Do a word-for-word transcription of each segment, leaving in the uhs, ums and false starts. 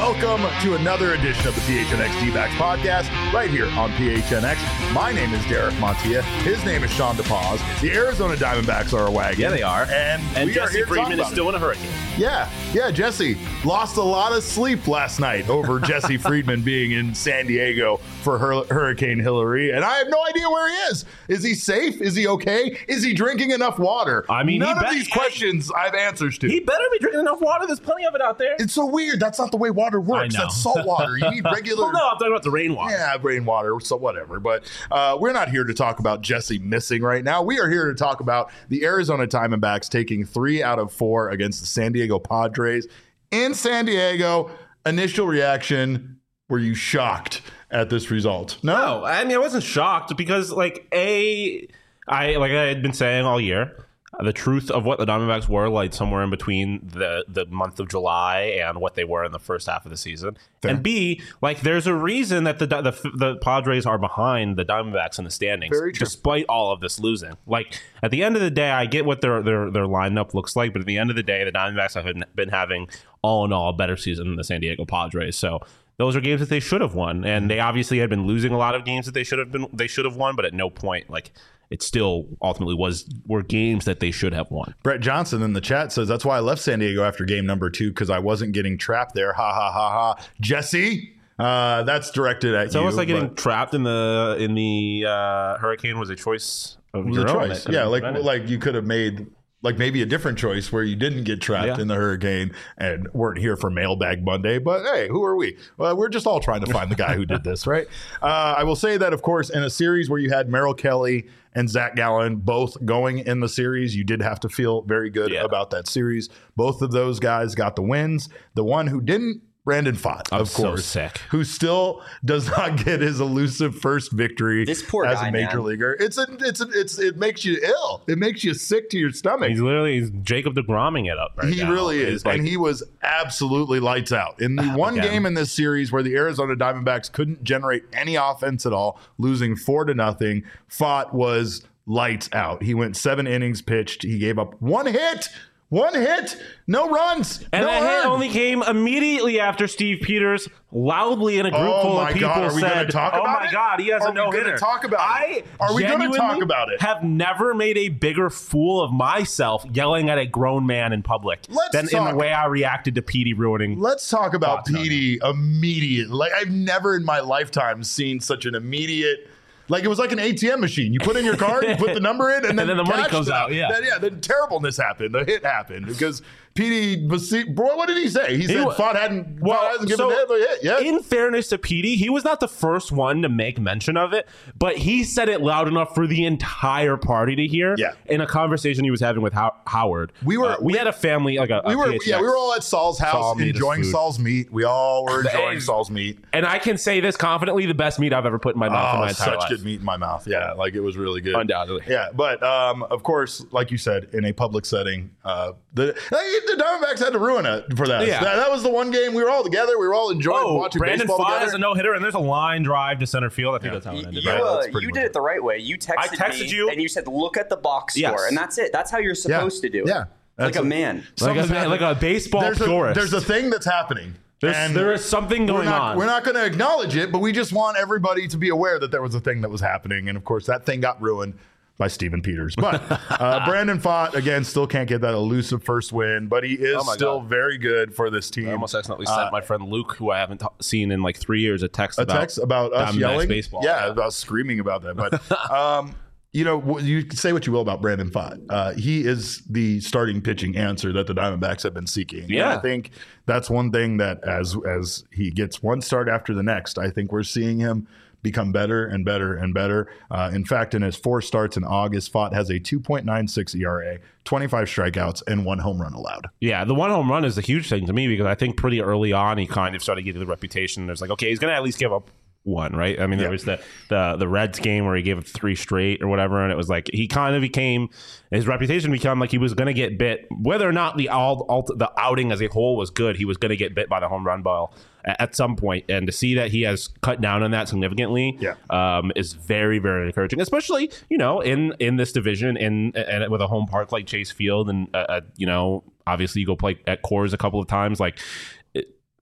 Welcome to another edition of the P H N X D-Backs podcast right here on P H N X. My name is Derek Montilla. His name is Sean DePaz. The Arizona Diamondbacks are a wagon. Yeah, they are. And, and we Jesse are here Friedman is still in a hurricane. Yeah, yeah, Jesse lost a lot of sleep last night over Jesse Friedman being in San Diego for Hur- Hurricane Hillary, and I have no idea where he is. Is he safe? Is he okay? Is he drinking enough water? I mean, none of be- these questions I have answers to. He better be drinking enough water. There's plenty of it out there. It's so weird. That's not the way water works. I know. That's salt water. You need regular. Well, no, I'm talking about the rainwater. Yeah, rainwater, so whatever. But uh, we're not here to talk about Jesse missing right now. We are here to talk about the Arizona Diamondbacks taking three out of four against the San Diego Padres in San Diego. Initial reaction, were you shocked at this result? No. No, I mean, I wasn't shocked because, like, A, I like I had been saying all year, the truth of what the Diamondbacks were, like, somewhere in between the, the month of July and what they were in the first half of the season. Fair. And B, like, there's a reason that the, the the Padres are behind the Diamondbacks in the standings, despite all of this losing. Like, at the end of the day, I get what their their their lineup looks like, but at the end of the day, the Diamondbacks have been, been having, all in all, a better season than the San Diego Padres. So those are games that they should have won, and they obviously had been losing a lot of games that they should have been they should have won, but at no point, like, it still ultimately was were games that they should have won. Brett Johnson in the chat says, that's why I left San Diego after game number two, because I wasn't getting trapped there. Ha, ha, ha, ha. Jesse, uh, that's directed at it's you. It's almost like getting trapped in the in the uh, hurricane was a choice of was your a own. choice. Yeah, like, like you could have made... like maybe a different choice where you didn't get trapped yeah. in the hurricane and weren't here for Mailbag Monday. But hey, who are we? Well, we're just all trying to find the guy who did this, right? Uh, I will say that, of course, in a series where you had Merrill Kelly and Zach Gallen both going in the series, you did have to feel very good yeah. about that series. Both of those guys got the wins. The one who didn't, Brandon Pfaadt, I'm of course, so sick. who still does not get his elusive first victory this poor as guy, a major man. leaguer. It's a, it's a, it's it makes you ill. It makes you sick to your stomach. He's literally he's Jacob DeGromming it up right he now. really is, like, and he was absolutely lights out in the one again. game in this series where the Arizona Diamondbacks couldn't generate any offense at all, losing four to nothing. Pfaadt was lights out. He went seven innings pitched. He gave up one hit. One hit, no runs, and no that hit earned. only came immediately after Steve Peters loudly in a group oh full my of people God, are we said, talk "Oh about my it? God, he has are a no hitter." Talk about I it? Are we going to talk about it? Have never made a bigger fool of myself yelling at a grown man in public Let's than talk. in the way I reacted to Petey ruining. Let's talk about Thoughts on Petey immediately. Like, I've never in my lifetime seen such an immediate. Like, it was like an A T M machine. You put in your card, you put the number in, and then, and then the money cash comes it out. Yeah, then, yeah. Then terribleness happened. The hit happened because Petey was. Boy, what did he say? He, He said wa- Pfaadt hadn't. Well, Pfaadt hasn't given so him a hit yet. In fairness to Petey, he was not the first one to make mention of it, but he said it loud enough for the entire party to hear. Yeah. In a conversation he was having with How- Howard, We were- Uh, we, we- had a family like a. we a were, P H N X. yeah, we were all at Saul's house Saul made us enjoying food. Saul's meat. We all were enjoying And- Saul's meat. And I can say this confidently: the best meat I've ever put in my mouth in Oh, my entire such life. good meat in my mouth. Yeah, like it was really good. Undoubtedly. Yeah, but um, of course, like you said, in a public setting, uh, the the Diamondbacks had to ruin it for that. Yeah. that. That was the one game we were all together. We were all enjoying Oh, watching Brandon baseball Pfaadt together. has a no hitter, and there's a line drive to center field. I think that's how it ended. You, right? uh, That's pretty you much did it. it the right way. You texted, I texted me, you. and you said, "Look at the box Yes. score," and that's it. That's how you're supposed to do it. Yeah, like That's a man. Like a, Something's man- like a baseball there's purist. A, there's a thing that's happening. There's, and there is something we're going not, on. We're not going to acknowledge it, but we just want everybody to be aware that there was a thing that was happening. And of course, that thing got ruined by Steven Peters. But uh, Brandon Pfaadt, again, still can't get that elusive first win, but he is Oh my still God. very good for this team. I almost accidentally Uh, sent my friend Luke, who I haven't t- seen in like three years, a text a about text about us Diamondbacks yelling baseball. Yeah, about screaming about that. But um, you know, wh- you can say what you will about Brandon Pfaadt. Uh, he is the starting pitching answer that the Diamondbacks have been seeking. And Yeah. I think that's one thing that as as he gets one start after the next, I think we're seeing him become better and better and better. Uh, in fact, in his four starts in August, Pfaadt has a two point nine six E R A, twenty-five strikeouts, and one home run allowed. Yeah, the one home run is a huge thing to me because I think pretty early on he kind of started getting the reputation. There's like, okay, he's going to at least give up one, right? I mean, Yeah. there was the, the the Reds game where he gave up three straight or whatever, and it was like he kind of became his reputation became like he was going to get bit, whether or not the all, all the outing as a whole was good. He was going to get bit by the home run ball at, at some point, and to see that he has cut down on that significantly, Yeah. um, is very very encouraging. Especially you know in in this division in and with a home park like Chase Field, and uh, uh, you know obviously you go play at Coors a couple of times, like.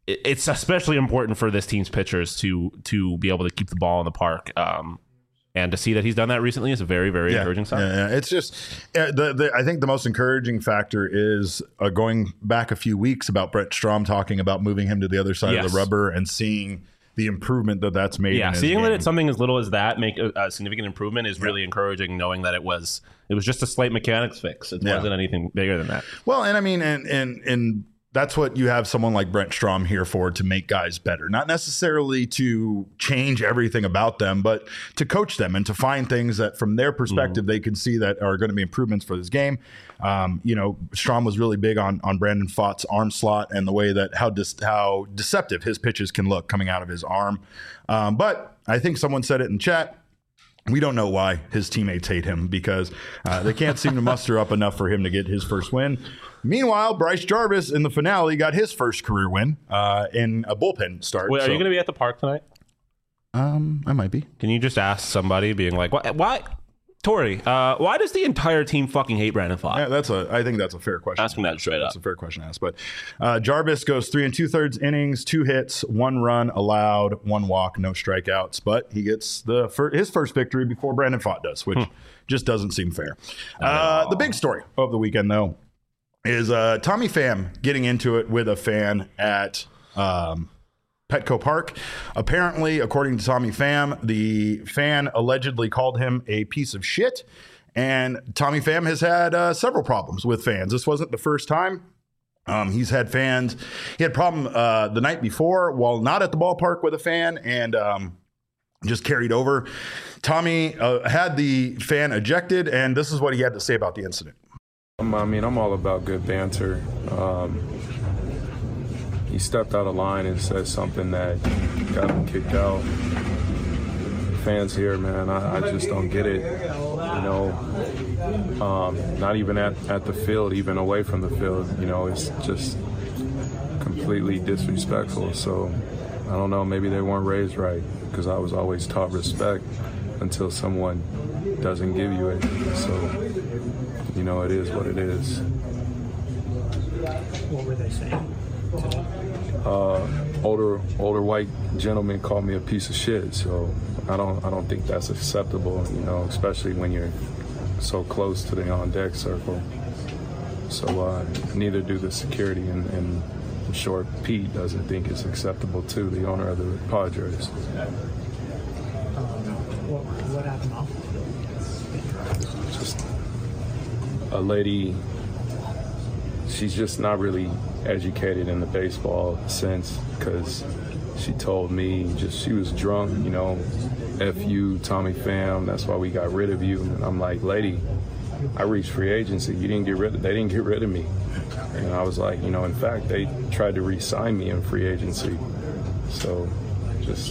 it's especially important for this team's pitchers to to be able to keep the ball in the park. Um, and to see that he's done that recently is a very, very yeah, encouraging sign. Yeah, yeah. It's just, uh, the, the, I think the most encouraging factor is uh, going back a few weeks about Brent Strom talking about moving him to the other side yes. of the rubber and seeing the improvement that that's made. Yeah, in his seeing game. that it's something as little as that make a, a significant improvement is yeah. really encouraging, knowing that it was it was just a slight mechanics fix. It yeah. wasn't anything bigger than that. Well, and I mean, and and and that's what you have someone like Brent Strom here for, to make guys better, not necessarily to change everything about them, but to coach them and to find things that from their perspective, mm-hmm. they can see that are going to be improvements for this game. Um, you know, Strom was really big on, on Brandon Pfaadt's arm slot and the way that how dis- how deceptive his pitches can look coming out of his arm. Um, but I think someone said it in chat. We don't know why his teammates hate him, because uh, they can't seem to muster up enough for him to get his first win. Meanwhile, Bryce Jarvis in the finale got his first career win uh, in a bullpen start. Wait, are so. you going to be at the park tonight? Um, I might be. Can you just ask somebody, being like, "Why, why Tori? Uh, why does the entire team fucking hate Brandon Pfaadt?" Yeah, that's a. I think that's a fair question. Asking that straight that's up. That's a fair question to ask. But uh, Jarvis goes three and two thirds innings, two hits, one run allowed, one walk, no strikeouts. But he gets the fir- his first victory before Brandon Pfaadt does, which hmm. just doesn't seem fair. Uh, the big story of the weekend, though, is uh, Tommy Pham getting into it with a fan at um, Petco Park. Apparently, according to Tommy Pham, the fan allegedly called him a piece of shit. And Tommy Pham has had uh, several problems with fans. This wasn't the first time. Um, he's had fans. He had a problem uh, the night before while not at the ballpark with a fan, and um, just carried over. Tommy uh, had the fan ejected, and this is what he had to say about the incident. I mean, I'm all about good banter. Um, he stepped out of line and said something that got him kicked out. Fans here, man, I, I just don't get it. You know, um, not even at, at the field, even away from the field, you know, it's just completely disrespectful. So I don't know, maybe they weren't raised right, because I was always taught respect until someone doesn't give you it. So, you know, it is what it is. What were they saying? Uh, older older white gentleman called me a piece of shit, so I don't I don't think that's acceptable, you know, especially when you're so close to the on deck circle. So uh, neither do the security, and, and I'm sure Pete doesn't think it's acceptable too, the owner of the Padres. Um, what, what happened off the field? Just a lady. She's just not really educated in the baseball sense, because she told me just she was drunk, you know, F you, Tommy Pham, that's why we got rid of you. And I'm like, lady, I reached free agency. You didn't get rid of, they didn't get rid of me. And I was like, you know, in fact, they tried to re-sign me in free agency. So just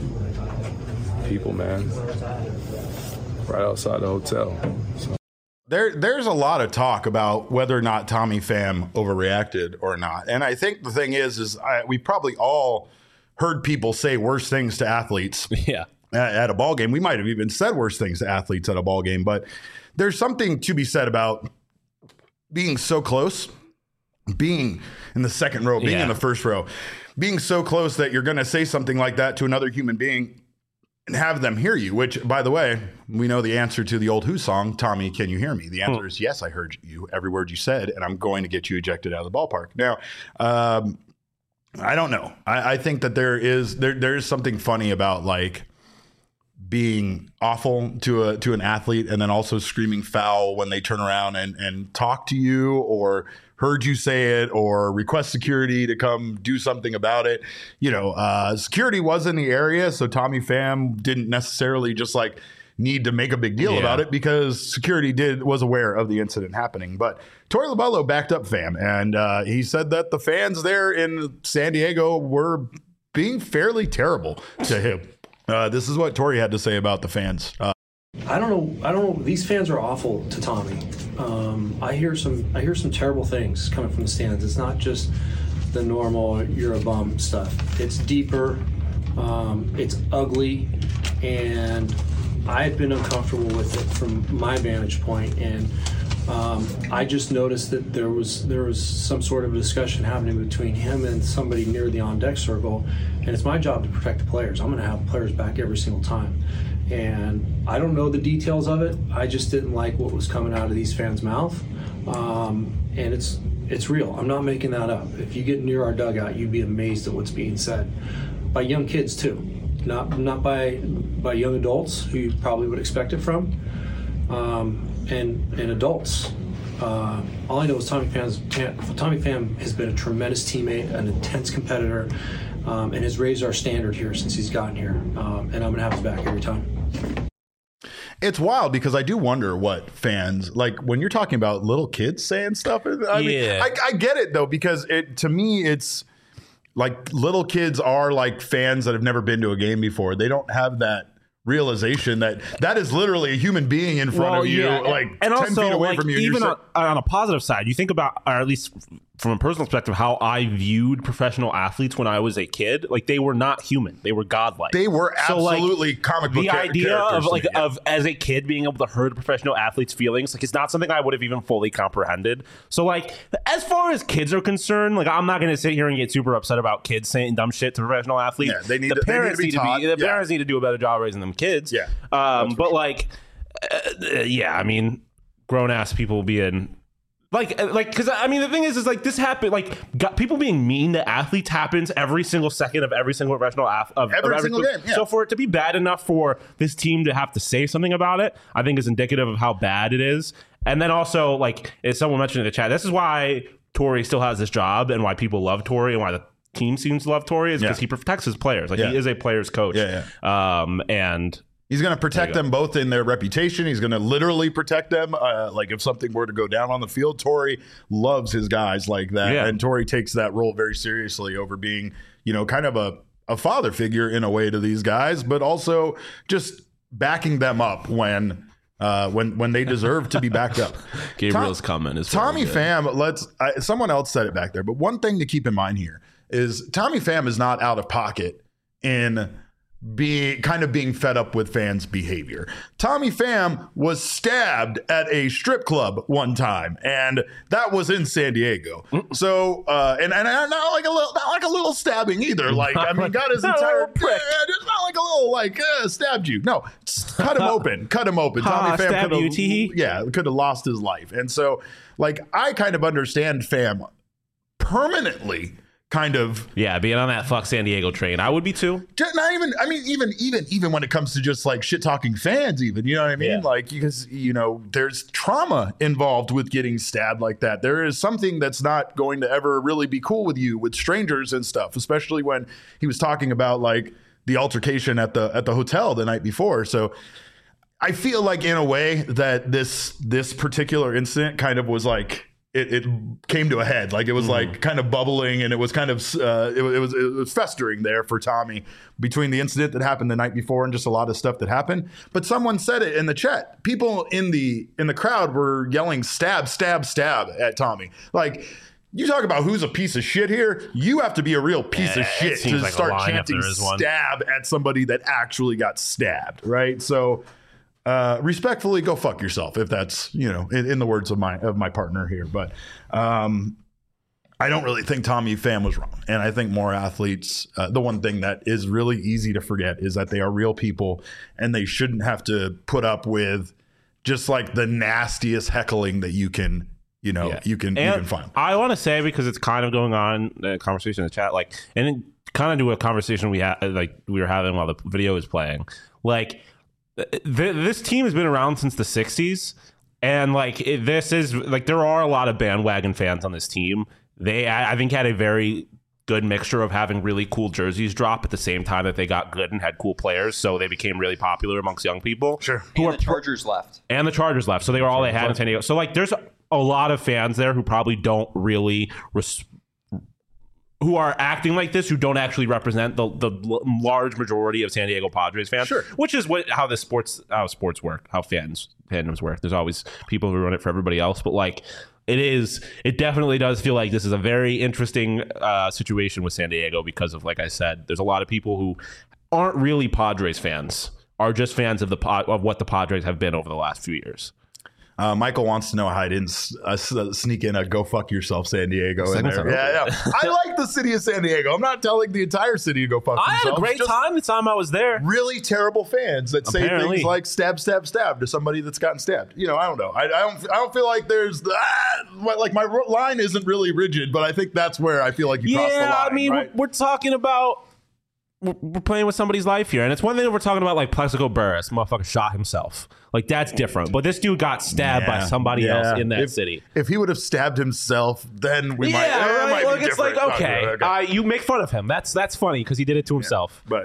people, man, right outside the hotel. So. There, there's a lot of talk about whether or not Tommy Pham overreacted or not. And I think the thing is, is I, we probably all heard people say worse things to athletes yeah. at, at a ball game. We might have even said worse things to athletes at a ball game. But there's something to be said about being so close, being in the second row, being yeah. in the first row, being so close that you're going to say something like that to another human being and have them hear you, which, by the way, we know the answer to the old Who song, Tommy, Can You Hear Me? The answer hmm. is yes, I heard you, every word you said, and I'm going to get you ejected out of the ballpark. Now, um, I don't know. I, I think that there is there there is something funny about, like, being awful to a to an athlete and then also screaming foul when they turn around and, and talk to you, or heard you say it, or request security to come do something about it. You know, uh, security was in the area, so Tommy Pham didn't necessarily just like need to make a big deal yeah. about it, because security did was aware of the incident happening. But Torey Lovullo backed up Pham, and uh, he said that the fans there in San Diego were being fairly terrible to him. Uh, this is what Torey had to say about the fans. Uh, I don't know. I don't know. These fans are awful to Tommy. Um, I hear some. I hear some terrible things coming from the stands. It's not just the normal "you're a bum" stuff. It's deeper. Um, it's ugly, and I've been uncomfortable with it from my vantage point. And Um, I just noticed that there was there was some sort of a discussion happening between him and somebody near the on-deck circle, and it's my job to protect the players. I'm going to have players back every single time. And I don't know the details of it. I just didn't like what was coming out of these fans' mouth. Um, and it's it's real. I'm not making that up. If you get near our dugout, you'd be amazed at what's being said. By young kids, too. Not not by by young adults, who you probably would expect it from. Um, and and adults. Uh, all I know is Tommy Pham's, Tommy Pham has been a tremendous teammate, an intense competitor, um, and has raised our standard here since he's gotten here. Um, and I'm going to have his back every time. It's wild because I do wonder what fans, like when you're talking about little kids saying stuff. I mean, yeah. I, I get it, though, because it to me, it's like little kids are like fans that have never been to a game before. They don't have that realization that that is literally a human being in front well, of you, yeah. like and ten also, feet away like, from you. Even on, on a positive side, you think about, or at least from a personal perspective, how I viewed professional athletes when I was a kid. Like, they were not human; they were godlike. They were absolutely so, like, comic book the idea of like yeah. of as a kid being able to hurt a professional athlete's feelings, like, it's not something I would have even fully comprehended. So, like, as far as kids are concerned, like, I'm not going to sit here and get super upset about kids saying dumb shit to professional athletes. Yeah, they need the to, parents they need to be taught. Need to be, the yeah. parents need to do a better job raising them kids. Yeah, um, but like, uh, yeah, I mean, grown ass people being. Like, like, because I mean, the thing is, is like this happened. Like, got, people being mean to athletes happens every single second of every single professional ath- of every, of every single game. Yeah. So for it to be bad enough for this team to have to say something about it, I think is indicative of how bad it is. And then also, like, as someone mentioned in the chat, this is why Torey still has this job and why people love Torey and why the team seems to love Torey is because yeah. he protects his players. Like, yeah. he is a player's coach. Yeah, yeah. Um, and. He's going to protect them both in their reputation. He's going to literally protect them. Uh, like if something were to go down on the field, Torey loves his guys like that. Yeah. And Torey takes that role very seriously over being, you know, kind of a, a father figure in a way to these guys, but also just backing them up when uh, when when they deserve to be backed up. Gabriel's Tom, comment is Tommy Pham, let's I, someone else said it back there, but one thing to keep in mind here is Tommy Pham is not out of pocket in being kind of being fed up with fans' behavior. Tommy Pham was stabbed at a strip club one time, and that was in San Diego. So, uh, and and not like a little, not like a little stabbing either. Like, I mean, got his entire prick. It's not like a little like uh, stabbed you. No, cut him open, cut him open. Tommy Pham could have, yeah, could have lost his life. And so, like, I kind of understand Pham permanently. Kind of, yeah, being on that fuck San Diego train, I would be too. Not even, I mean, even, even, even when it comes to just like shit talking fans, even, you know what I mean? Yeah. Like, because, you know, there's trauma involved with getting stabbed like that. There is something that's not going to ever really be cool with you with strangers and stuff, especially when he was talking about like the altercation at the at the hotel the night before. So I feel like in a way that this this particular incident kind of was like. It, it came to a head, like it was mm. like kind of bubbling, and it was kind of uh, it, it was it was festering there for Tommy between the incident that happened the night before and just a lot of stuff that happened. But someone said it in the chat. People in the in the crowd were yelling "stab, stab, stab" at Tommy. Like, you talk about who's a piece of shit here. You have to be a real piece yeah, of shit to like start chanting "stab" at somebody that actually got stabbed, right? So. Uh, respectfully, go fuck yourself if that's, you know, in, in the words of my of my partner here. But um, I don't really think Tommy Pham was wrong. And I think more athletes, uh, the one thing that is really easy to forget is that they are real people and they shouldn't have to put up with just like the nastiest heckling that you can, you know, yeah. you can and you can find. I want to say, because it's kind of going on, a conversation in the chat, like, and it kind of do a conversation we had, like we were having while the video was playing, like, this team has been around since the sixties, and like it, this is like there are a lot of bandwagon fans on this team. They, I think, had a very good mixture of having really cool jerseys drop at the same time that they got good and had cool players, so they became really popular amongst young people. Sure, and the Chargers left, and the Chargers left, so they were all they had in San Diego. So like, there's a lot of fans there who probably don't really. Res- who are acting like this, who don't actually represent the the large majority of San Diego Padres fans, sure. Which is what how the sports how sports work, how fans fandoms work. There's always people who run it for everybody else, but like it is, it definitely does feel like this is a very interesting uh, situation with San Diego because of, like I said, there's a lot of people who aren't really Padres fans, are just fans of the of what the Padres have been over the last few years. Uh, Michael wants to know how I didn't uh, sneak in a "Go fuck yourself, San Diego" in there. Yeah, yeah. I like the city of San Diego. I'm not telling the entire city to go fuck I themselves. had a great Just time the time I was there. Really terrible fans that say Apparently. things like "stab, stab, stab" to somebody that's gotten stabbed. You know, I don't know. I, I don't. I don't feel like there's ah, like my line isn't really rigid, but I think that's where I feel like you yeah, cross the line. I mean, right? we're, we're talking about. We're playing with somebody's life here, and it's one thing if we're talking about like Plexico Burris, motherfucker shot himself. Like that's different. But this dude got stabbed Yeah, by somebody yeah. else in that if, city. If he would have stabbed himself, then we yeah, might. eh, it right. might Like be it's like different. okay, okay. Uh, you make fun of him. That's that's funny because he did it to himself. But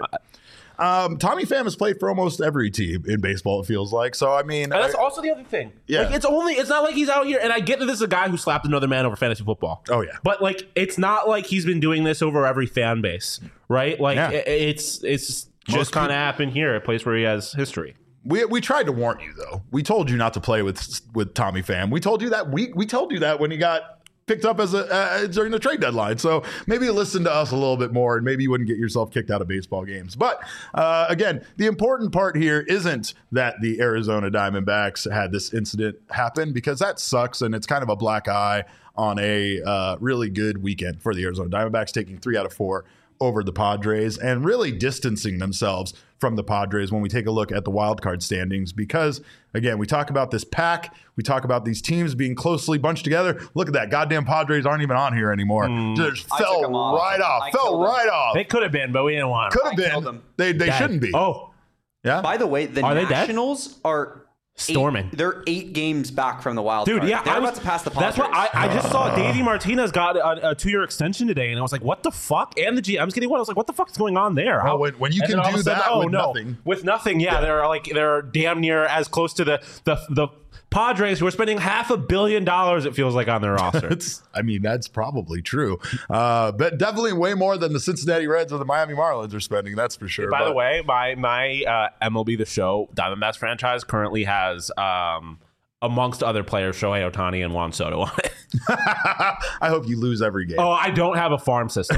um, Tommy Pham has played for almost every team in baseball. It feels like so. I mean, And that's I, also the other thing. Yeah. Like, it's only it's not like he's out here, and I get that this is a guy who slapped another man over fantasy football. Oh, yeah. But like, it's not like he's been doing this over every fan base, right? Like, Yeah. it, it's it's Most just kind of people- happened here, a place where he has history. we we tried to warn you though. We told you not to play with with Tommy Pham. We told you that we we told you that when he got picked up as a uh, during the trade deadline. So maybe listen to us a little bit more, and maybe you wouldn't get yourself kicked out of baseball games. But uh, again, the important part here isn't that the Arizona Diamondbacks had this incident happen, because that sucks, and it's kind of a black eye on a uh, really good weekend for the Arizona Diamondbacks, taking three out of four over the Padres and really distancing themselves from the Padres when we take a look at the wild card standings. Because again, we talk about this pack, we talk about these teams being closely bunched together. Look at that, goddamn Padres aren't even on here anymore. Just I fell took 'em off. right off, I fell killed 'em. right off. They could have been, but we didn't want Could them. have I killed been. them. They they Dead. shouldn't be. Oh, Yeah. By the way, the Are they dead? Nationals are Storming. Eight, they're eight games back from the wild dude, card. yeah, They're I was, about to pass the Padres. That's what I, I just saw. Davey Martinez got a, a two-year extension today, and I was like, "What the fuck?" And the G M's getting one. I was like, "What the fuck is going on there?" Well, How- when- when you and can then all of do a sudden, that oh, with no. nothing. with nothing, yeah, they're like they're damn near as close to the the the Padres, who are spending half a billion dollars. It feels like on their roster. It's, I mean, that's probably true. Uh, but definitely way more than the Cincinnati Reds or the Miami Marlins are spending. That's for sure. By But- the way, my my uh, M L B The Show Diamondbacks franchise currently has, um, amongst other players, Shohei Ohtani and Juan Soto on it. I hope you lose every game. Oh, I don't have a farm system.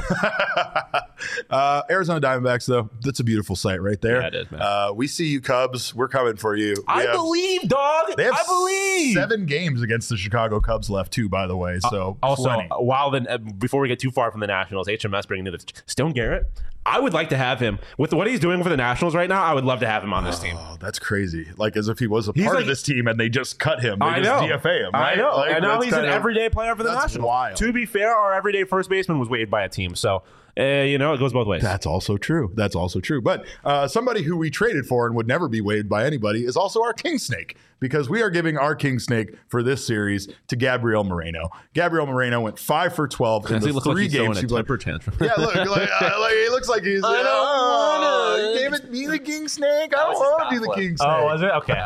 uh, Arizona Diamondbacks, though, that's a beautiful sight right there. Yeah, it is, man. Uh, we see you, Cubs. We're coming for you. We I have- believe, dog. They have I believe. seven games against the Chicago Cubs left, too, by the way. So Also, plenty. while the uh, before we get too far from the Nationals, H M S bringing in the Stone Garrett. I would like to have him with what he's doing for the Nationals right now. I would love to have him on this team. Oh, that's crazy. Like as if he was a He's part like- of this team and they just cut him. They I just know. D F A him. Right? I know. Like, and now that's he's an kind of- everyday player for the that's Nationals. wild. To be fair, our everyday first baseman was waived by a team, so uh, you know it goes both ways. That's also true. That's also true. But uh, somebody who we traded for and would never be waived by anybody is also our King Snake, because we are giving our King Snake for this series to Gabriel Moreno. Gabriel Moreno went five for twelve in Does the he look three like he's games throwing he a played. temper tantrum? Yeah, look, like, uh, like he looks like he's. I don't oh, wanna. you gave it me the King Snake. I don't was his want to do the bat King flip. Snake. Oh, was it? Okay.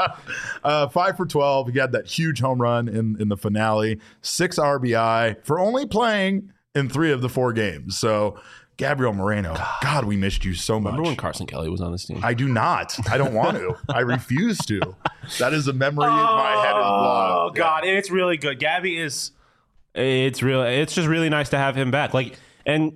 uh, five for twelve. He had that huge home run in, in the finale. Six R B I for only playing in three of the four games. So, Gabriel Moreno, God, we missed you so much. Remember when Carson Kelly was on this team? I do not. I don't want to. I refuse to. That is a memory in my head is blown. Oh God, and it's really good. Gabby is. It's real. It's just really nice to have him back. Like, and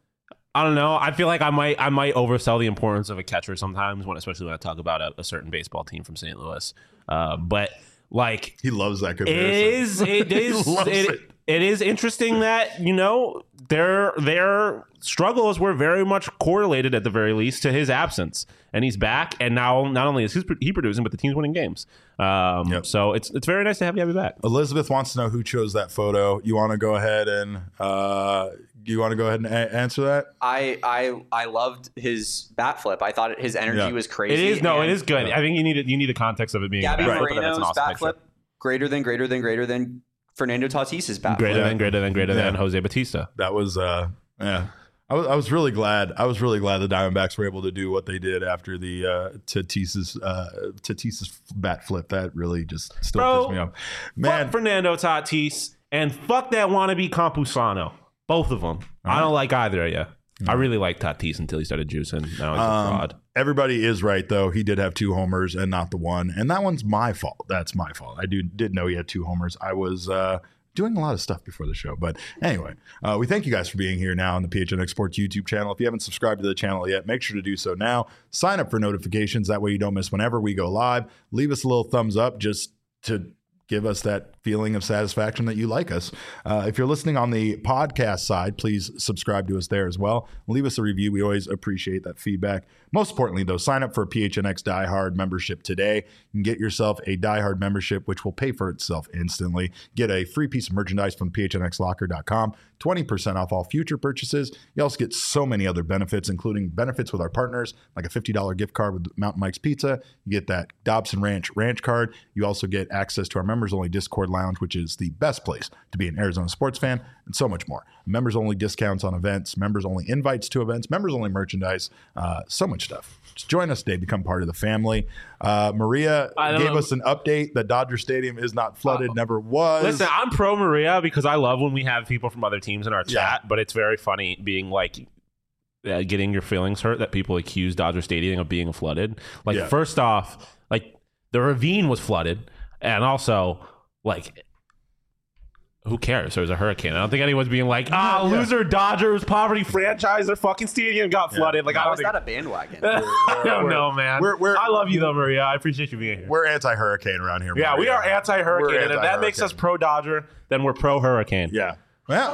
I don't know. I feel like I might. I might oversell the importance of a catcher sometimes, when especially when I talk about a, a certain baseball team from Saint Louis. Uh, but like, He loves that it comparison. is. It is. loves it, it. it is interesting that you know their their struggles were very much correlated, at the very least, to his absence, and he's back, and now not only is he producing, but the team's winning games. Um, Yep. So it's it's very nice to have Gabby back. Elizabeth wants to know who chose that photo. You want to go ahead and uh, you want to go ahead and a- answer that? I I I loved his bat flip. I thought his energy Yeah. was crazy. It is no, it and is good. I think you need it. You need the context of it being Gabby a bat flip, but that's Moreno's an awesome bat picture. flip greater than greater than greater than Fernando Tatis's bat Greater flip. than greater than greater Yeah. than Jose Batista. That was uh, yeah. I was, I was really glad. I was really glad the Diamondbacks were able to do what they did after the uh, Tatis's uh, Tatis's bat flip. That really just still Bro, pissed me off. Fuck Man, Fernando Tatis and fuck that wannabe Campusano. Both of them. I don't like either of you. I really liked Tatis until he started juicing. Now he's a Um, fraud. everybody is right though. He did have two homers and not the one, and that one's my fault. That's my fault. I do did know he had two homers. I was uh, doing a lot of stuff before the show, but anyway, uh, we thank you guys for being here now on the P H N X Sports YouTube channel. If you haven't subscribed to the channel yet, make sure to do so now. Sign up for notifications. That way you don't miss whenever we go live. Leave us a little thumbs up just to give us that feeling of satisfaction that you like us. Uh, if you're listening on the podcast side, please subscribe to us there as well. Leave us a review. We always appreciate that feedback. Most importantly, though, sign up for a P H N X Die Hard membership today. You can get yourself a Die Hard membership, which will pay for itself instantly. Get a free piece of merchandise from P H N X locker dot com, twenty percent off all future purchases. You also get so many other benefits, including benefits with our partners, like a fifty dollars gift card with Mountain Mike's Pizza. You get that Dobson Ranch Ranch card. You also get access to our members-only Discord lounge, which is the best place to be an Arizona sports fan, and so much more. Members-only discounts on events, members-only invites to events, members-only merchandise, uh, so much stuff. Just join us today, become part of the family. Uh, Maria gave know. us an update that Dodger Stadium is not flooded, uh, never was. Listen, I'm pro Maria because I love when we have people from other teams in our chat, yeah. but it's very funny being like, uh, getting your feelings hurt that people accuse Dodger Stadium of being flooded. Like, yeah. first off, like, the ravine was flooded, and also, like, who cares? There was a hurricane. I don't think anyone's being like, ah, oh, yeah. loser Dodgers, poverty franchise, their fucking stadium got flooded. Yeah. Like, How I don't is think... that a bandwagon? I don't know, man. We're, we're, I love you, though, Maria. I appreciate you being here. We're anti-hurricane around here, Maria. Yeah, we are anti-hurricane, we're and anti-hurricane. If that makes us pro-Dodger, then we're pro-hurricane. Yeah. Well,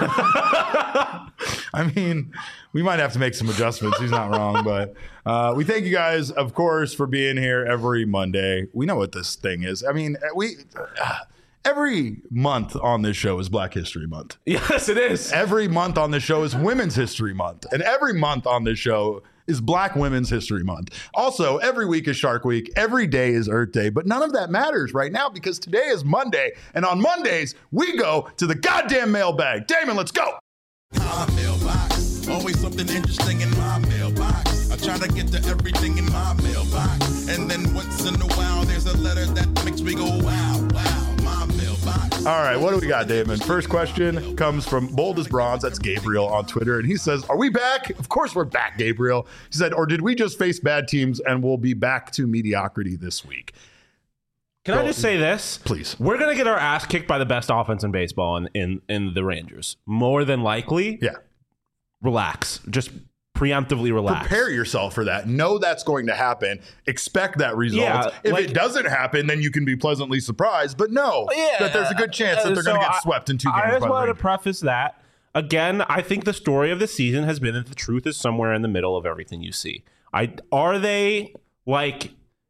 I mean, we might have to make some adjustments. He's not wrong, but uh, we thank you guys, of course, for being here every Monday. We know what this thing is. I mean, we... Uh, Every month on this show is Black History Month. Yes, it is. Every month on this show is Women's History Month. And every month on this show is Black Women's History Month. Also, every week is Shark Week. Every day is Earth Day. But none of that matters right now because today is Monday. And on Mondays, we go to the goddamn mailbag. Damon, let's go. My mailbox. Always something interesting in my mailbox. I try to get to everything in my mailbox. And then once in a while, there's a letter that makes me go, wow, wow. All right, what do we got, Damon? First question comes from Bold as Bronze. That's Gabriel on Twitter. And he says, are we back? Of course we're back, Gabriel. He said, or did we just face bad teams and we'll be back to mediocrity this week? Can so, I just say this? Please. We're going to get our ass kicked by the best offense in baseball in, in, in the Rangers. More than likely. Yeah. Relax. Just preemptively relax. Prepare yourself for that. Know that's going to happen. Expect that result. Yeah, if like, it doesn't happen, then you can be pleasantly surprised. But know yeah, that there's a good chance that they're so going to get swept in two games. I just wanted to preface that. Again, I think the story of the season has been that the truth is somewhere in the middle of everything you see. I Are they, like...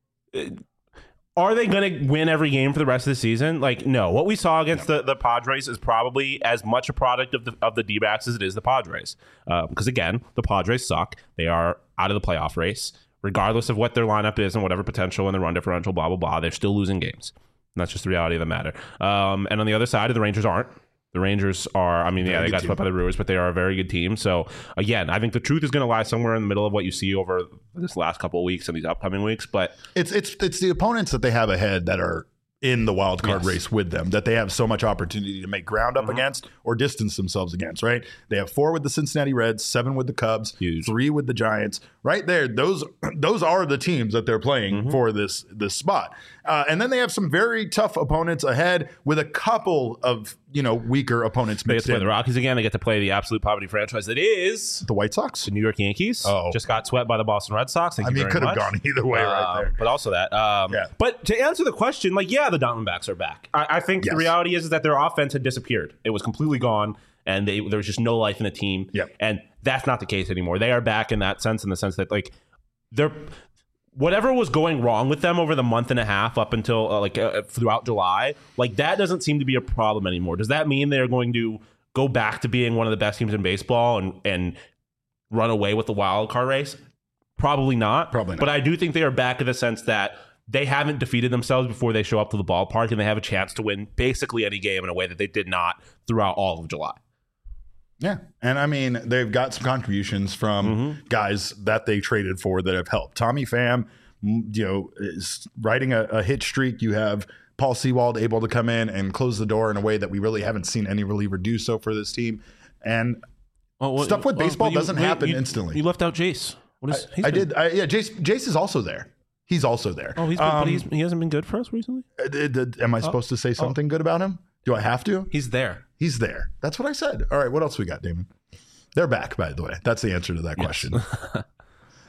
Are they going to win every game for the rest of the season? Like, no. What we saw against the, the Padres is probably as much a product of the of the D-backs as it is the Padres. Because, uh, again, the Padres suck. They are out of the playoff race. Regardless of what their lineup is and whatever potential and the run differential, blah, blah, blah, they're still losing games. And that's just the reality of the matter. Um, and on the other side, the Rangers aren't. The Rangers are, I mean, yeah, they got swept by the Brewers, but they are a very good team. So, again, I think the truth is going to lie somewhere in the middle of what you see over this last couple of weeks and these upcoming weeks. But it's it's it's the opponents that they have ahead that are in the wild card yes. race with them, that they have so much opportunity to make ground up mm-hmm. against or distance themselves against, right? They have four with the Cincinnati Reds, seven with the Cubs, Huge. three with the Giants. Right there, those those are the teams that they're playing mm-hmm. for this this spot. Uh, and then they have some very tough opponents ahead with a couple of, you know, weaker opponents they mixed get to play in. The Rockies again. They get to play the absolute poverty franchise that is the White Sox. The New York Yankees. Oh. Just got swept by the Boston Red Sox. Thank I you mean, very it could have much. gone either way uh, right there. But also that. Um, yeah. But to answer the question, like, yeah, the Diamondbacks are back. I, I think yes. the reality is, is that their offense had disappeared. It was completely gone, and they, there was just no life in the team. Yep. And that's not the case anymore. They are back in that sense, in the sense that, like, they're... Whatever was going wrong with them over the month and a half up until uh, like uh, throughout July, like that doesn't seem to be a problem anymore. Does that mean they're going to go back to being one of the best teams in baseball and and run away with the wild card race? Probably not. Probably not. But I do think they are back in the sense that they haven't defeated themselves before they show up to the ballpark, and they have a chance to win basically any game in a way that they did not throughout all of July. Yeah. And I mean, they've got some contributions from mm-hmm. guys that they traded for that have helped. Tommy Pham, you know, is riding a, a hit streak. You have Paul Sewald able to come in and close the door in a way that we really haven't seen any reliever do so for this team. And oh, well, stuff with baseball well, you, doesn't happen you, instantly. You left out Jace. What is, I, I did. I, yeah, Jace, Jace is also there. He's also there. Oh, he's been, um, but he's, he hasn't been good for us recently? Uh, did, am I supposed oh. to say something oh. good about him? Do I have to? He's there. He's there. That's what I said. All right. What else we got, Damon? They're back, by the way. That's the answer to that yes. question.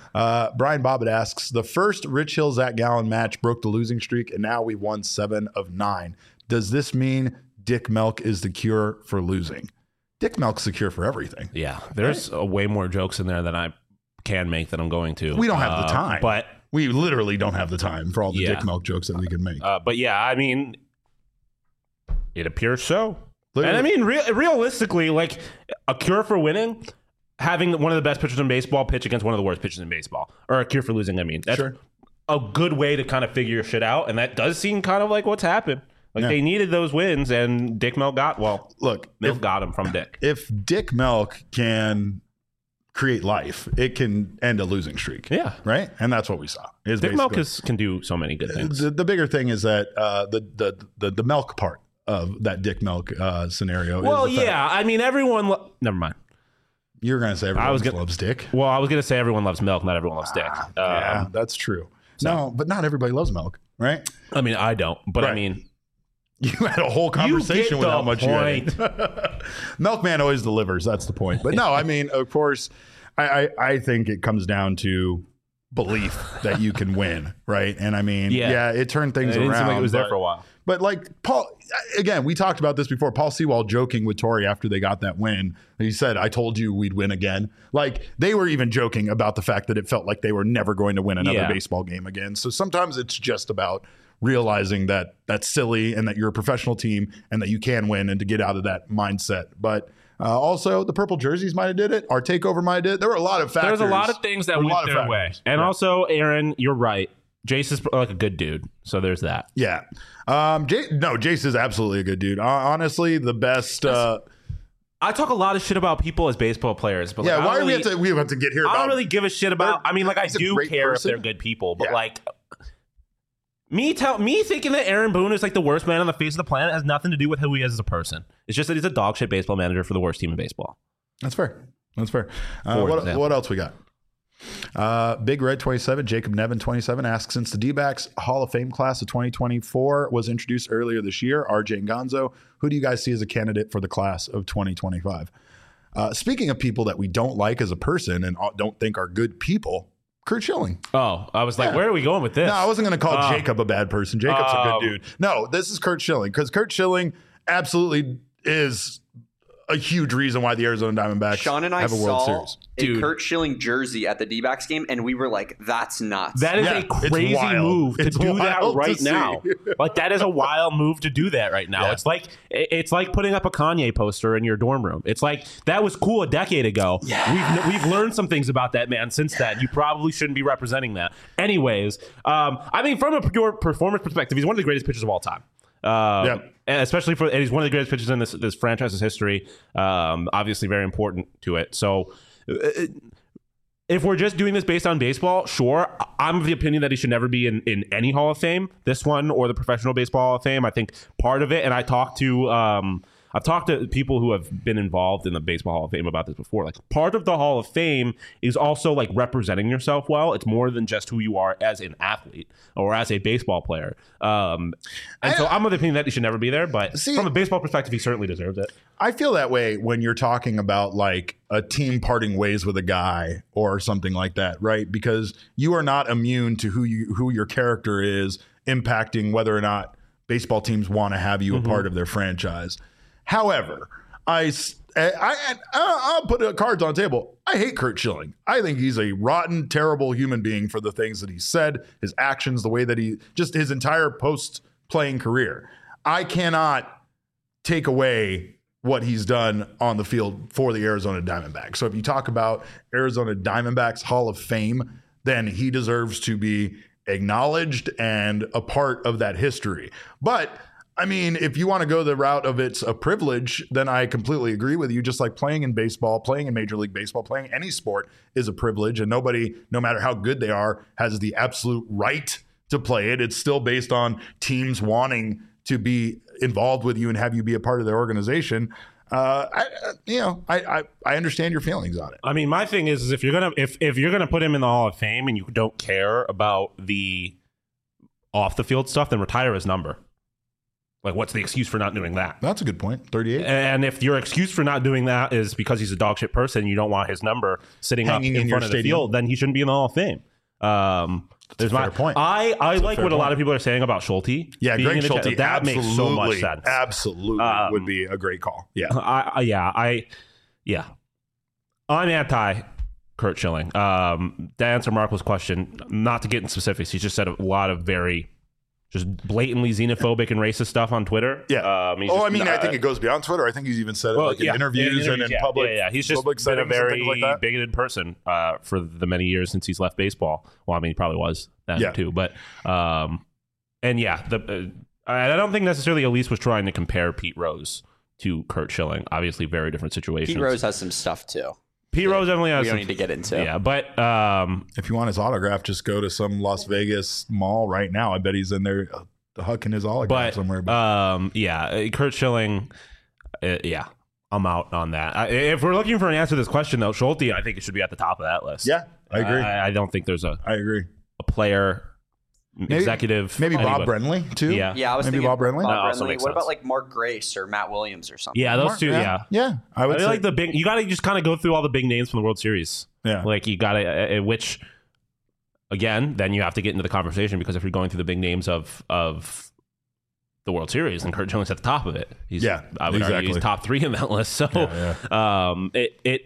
Uh, Brian Bobbitt asks, the first Rich Hill Zach Gallen match broke the losing streak, and now we've won seven of nine. Does this mean Dick Melk is the cure for losing? Dick Melk's the cure for everything. Yeah, there's right? uh, way more jokes in there than I can make than I'm going to. We don't have uh, the time. But we literally don't have the time for all the yeah. Dick Melk jokes that we can make. Uh, but yeah, I mean, it appears so. Literally. And I mean, re- realistically, like a cure for winning, having one of the best pitchers in baseball pitch against one of the worst pitchers in baseball, or a cure for losing. I mean, that's sure. a good way to kind of figure your shit out, and that does seem kind of like what's happened. Like yeah. they needed those wins, and Dick Melk got well. Look, Melk if, got him from Dick. If Dick Melk can create life, it can end a losing streak. Yeah, right. And that's what we saw. Is Dick Melk is, can do so many good things. The, the bigger thing is that uh, the, the the the Melk part of that Dick Melk uh, scenario. Well, is the yeah. fact. I mean, everyone. Lo- Never mind. You're going to say everyone I was gonna, loves Dick. Well, I was going to say everyone loves Melk, not everyone loves Dick. Ah, um, yeah, that's true. So. No, but not everybody loves Melk, right? I mean, I don't, but right. I mean, you had a whole conversation with how much point. you had. Milkman always delivers. That's the point. But no, I mean, of course, I, I, I think it comes down to belief that you can win, right? And I mean, yeah, yeah it turned things it didn't around. Seem like it was but, there for a while. But like Paul, again, we talked about this before. Paul Sewald joking with Torrey after they got that win. He said, I told you we'd win again. Like they were even joking about the fact that it felt like they were never going to win another yeah. baseball game again. So sometimes it's just about realizing that that's silly and that you're a professional team and that you can win and to get out of that mindset. But uh, also the purple jerseys might have did it. Our takeover might have did it. There were a lot of factors. There's a lot of things that went their way. And yeah. also, Aaron, you're right. Jace is like a good dude. So there's that. Yeah. Um, J- no, Jace is absolutely a good dude. Uh, honestly, the best. Uh, I talk a lot of shit about people as baseball players, but yeah, like, why do really, we have to? We have to get here. I about don't really give a shit about. I mean, like I do care person. if they're good people, but yeah. like me tell me thinking that Aaron Boone is like the worst man on the face of the planet has nothing to do with who he is as a person. It's just that he's a dog shit baseball manager for the worst team in baseball. That's fair. That's fair. Uh, what, what else we got? Uh, Big Red twenty-seven, Jacob Nevin twenty-seven asks, since the D-backs Hall of Fame class of twenty twenty-four was introduced earlier this year, R J and Gonzo, who do you guys see as a candidate for the class of twenty twenty-five? Uh, speaking of people that we don't like as a person and don't think are good people, Curt Schilling. Oh, I was like, yeah. where are we going with this? No, I wasn't going to call uh, Jacob a bad person. Jacob's uh, a good dude. No, this is Curt Schilling because Curt Schilling absolutely is a huge reason why the Arizona Diamondbacks Sean and I have a World saw Series. a Dude. Curt Schilling jersey at the D-backs game, and we were like, that's nuts. That is yeah, a crazy move to it's do that right to now. Like, that is a wild move to do that right now. Yeah. It's like it's like putting up a Kanye poster in your dorm room. It's like, that was cool a decade ago. Yeah. We've, we've learned some things about that man since then. You probably shouldn't be representing that. Anyways, um, I mean, from a pure performance perspective, he's one of the greatest pitchers of all time. Um, yeah. And especially for, and he's one of the greatest pitchers in this this franchise's history. Um, obviously, very important to it. So, uh, if we're just doing this based on baseball, sure. I'm of the opinion that he should never be in, in any Hall of Fame, this one or the Professional Baseball Hall of Fame. I think part of it, and I talked to, um, I've talked to people who have been involved in the Baseball Hall of Fame about this before. Like, part of the Hall of Fame is also like representing yourself well. It's more than just who you are as an athlete or as a baseball player. Um, and I, so I'm of the opinion that he should never be there. But see, from a baseball perspective, he certainly deserves it. I feel that way when you're talking about like a team parting ways with a guy or something like that, right? Because you are not immune to who you who your character is impacting whether or not baseball teams want to have you mm-hmm. a part of their franchise. However, I, I, I, I'll put cards on the table. I hate Curt Schilling. I think he's a rotten, terrible human being for the things that he said, his actions, the way that he, just his entire post-playing career. I cannot take away what he's done on the field for the Arizona Diamondbacks. So if you talk about Arizona Diamondbacks Hall of Fame, then he deserves to be acknowledged and a part of that history. But I mean, if you want to go the route of it's a privilege, then I completely agree with you. Just like playing in baseball, playing in Major League Baseball, playing any sport is a privilege. And nobody, no matter how good they are, has the absolute right to play it. It's still based on teams wanting to be involved with you and have you be a part of their organization. Uh, I, you know, I, I, I understand your feelings on it. I mean, my thing is, is if you're gonna if if you're gonna put him in the Hall of Fame and you don't care about the off the field stuff, then retire his number. Like, what's the excuse for not doing that? That's a good point. thirty-eight. And if your excuse for not doing that is because he's a dog shit person, you don't want his number sitting Hanging up in, in front your of the stadium. field, then he shouldn't be in the Hall of Fame. Um, there's my fair point. I, I like fair what a lot point. of people are saying about Schulte. Yeah, being Greg in the Schulte. chat. That makes so much sense. Absolutely Um, would be a great call. Yeah. I, I yeah, I yeah. I'm anti Kurt Schilling. Um, to answer Marco's question, not to get in specifics, he just said a lot of very just blatantly xenophobic and racist stuff on Twitter. Yeah. Um, he's oh, just, I mean, uh, I think it goes beyond Twitter. I think he's even said it well, like in yeah, interviews, and in yeah, public. Yeah, yeah. He's just public been a settings and very things like that. bigoted person uh, for the many years since he's left baseball. Well, I mean, he probably was then Yeah. too. But um, and yeah, the uh, I don't think necessarily Elise was trying to compare Pete Rose to Kurt Schilling. Obviously, very different situations. Pete Rose has some stuff too. Pete Rose definitely has. We don't some- need to get into. Yeah, but um, If you want his autograph, just go to some Las Vegas mall right now. I bet he's in there uh, hucking his autograph but somewhere. But um, yeah, uh, Kurt Schilling. Uh, yeah, I'm out on that. I, if we're looking for an answer to this question, though, Schulte, I think it should be at the top of that list. yeah, I agree. I, I don't think there's a, I agree. a player, executive, Maybe Bob anybody. Brenly too. Yeah. Yeah, I was maybe thinking Bob Brenly. That Bob also Brenly. makes What sense. about like Mark Grace or Matt Williams or something? Yeah, those Mark- two. Yeah, yeah. I I would really say like the big. You got to just kind of go through all the big names from the World Series. yeah. Like you got to, uh, which again, then you have to get into the conversation because if you're going through the big names of of the World Series, and Kurt Schilling's at the top of it. He's, Yeah, I would argue he's exactly. top three in that list. So, Yeah, um, it it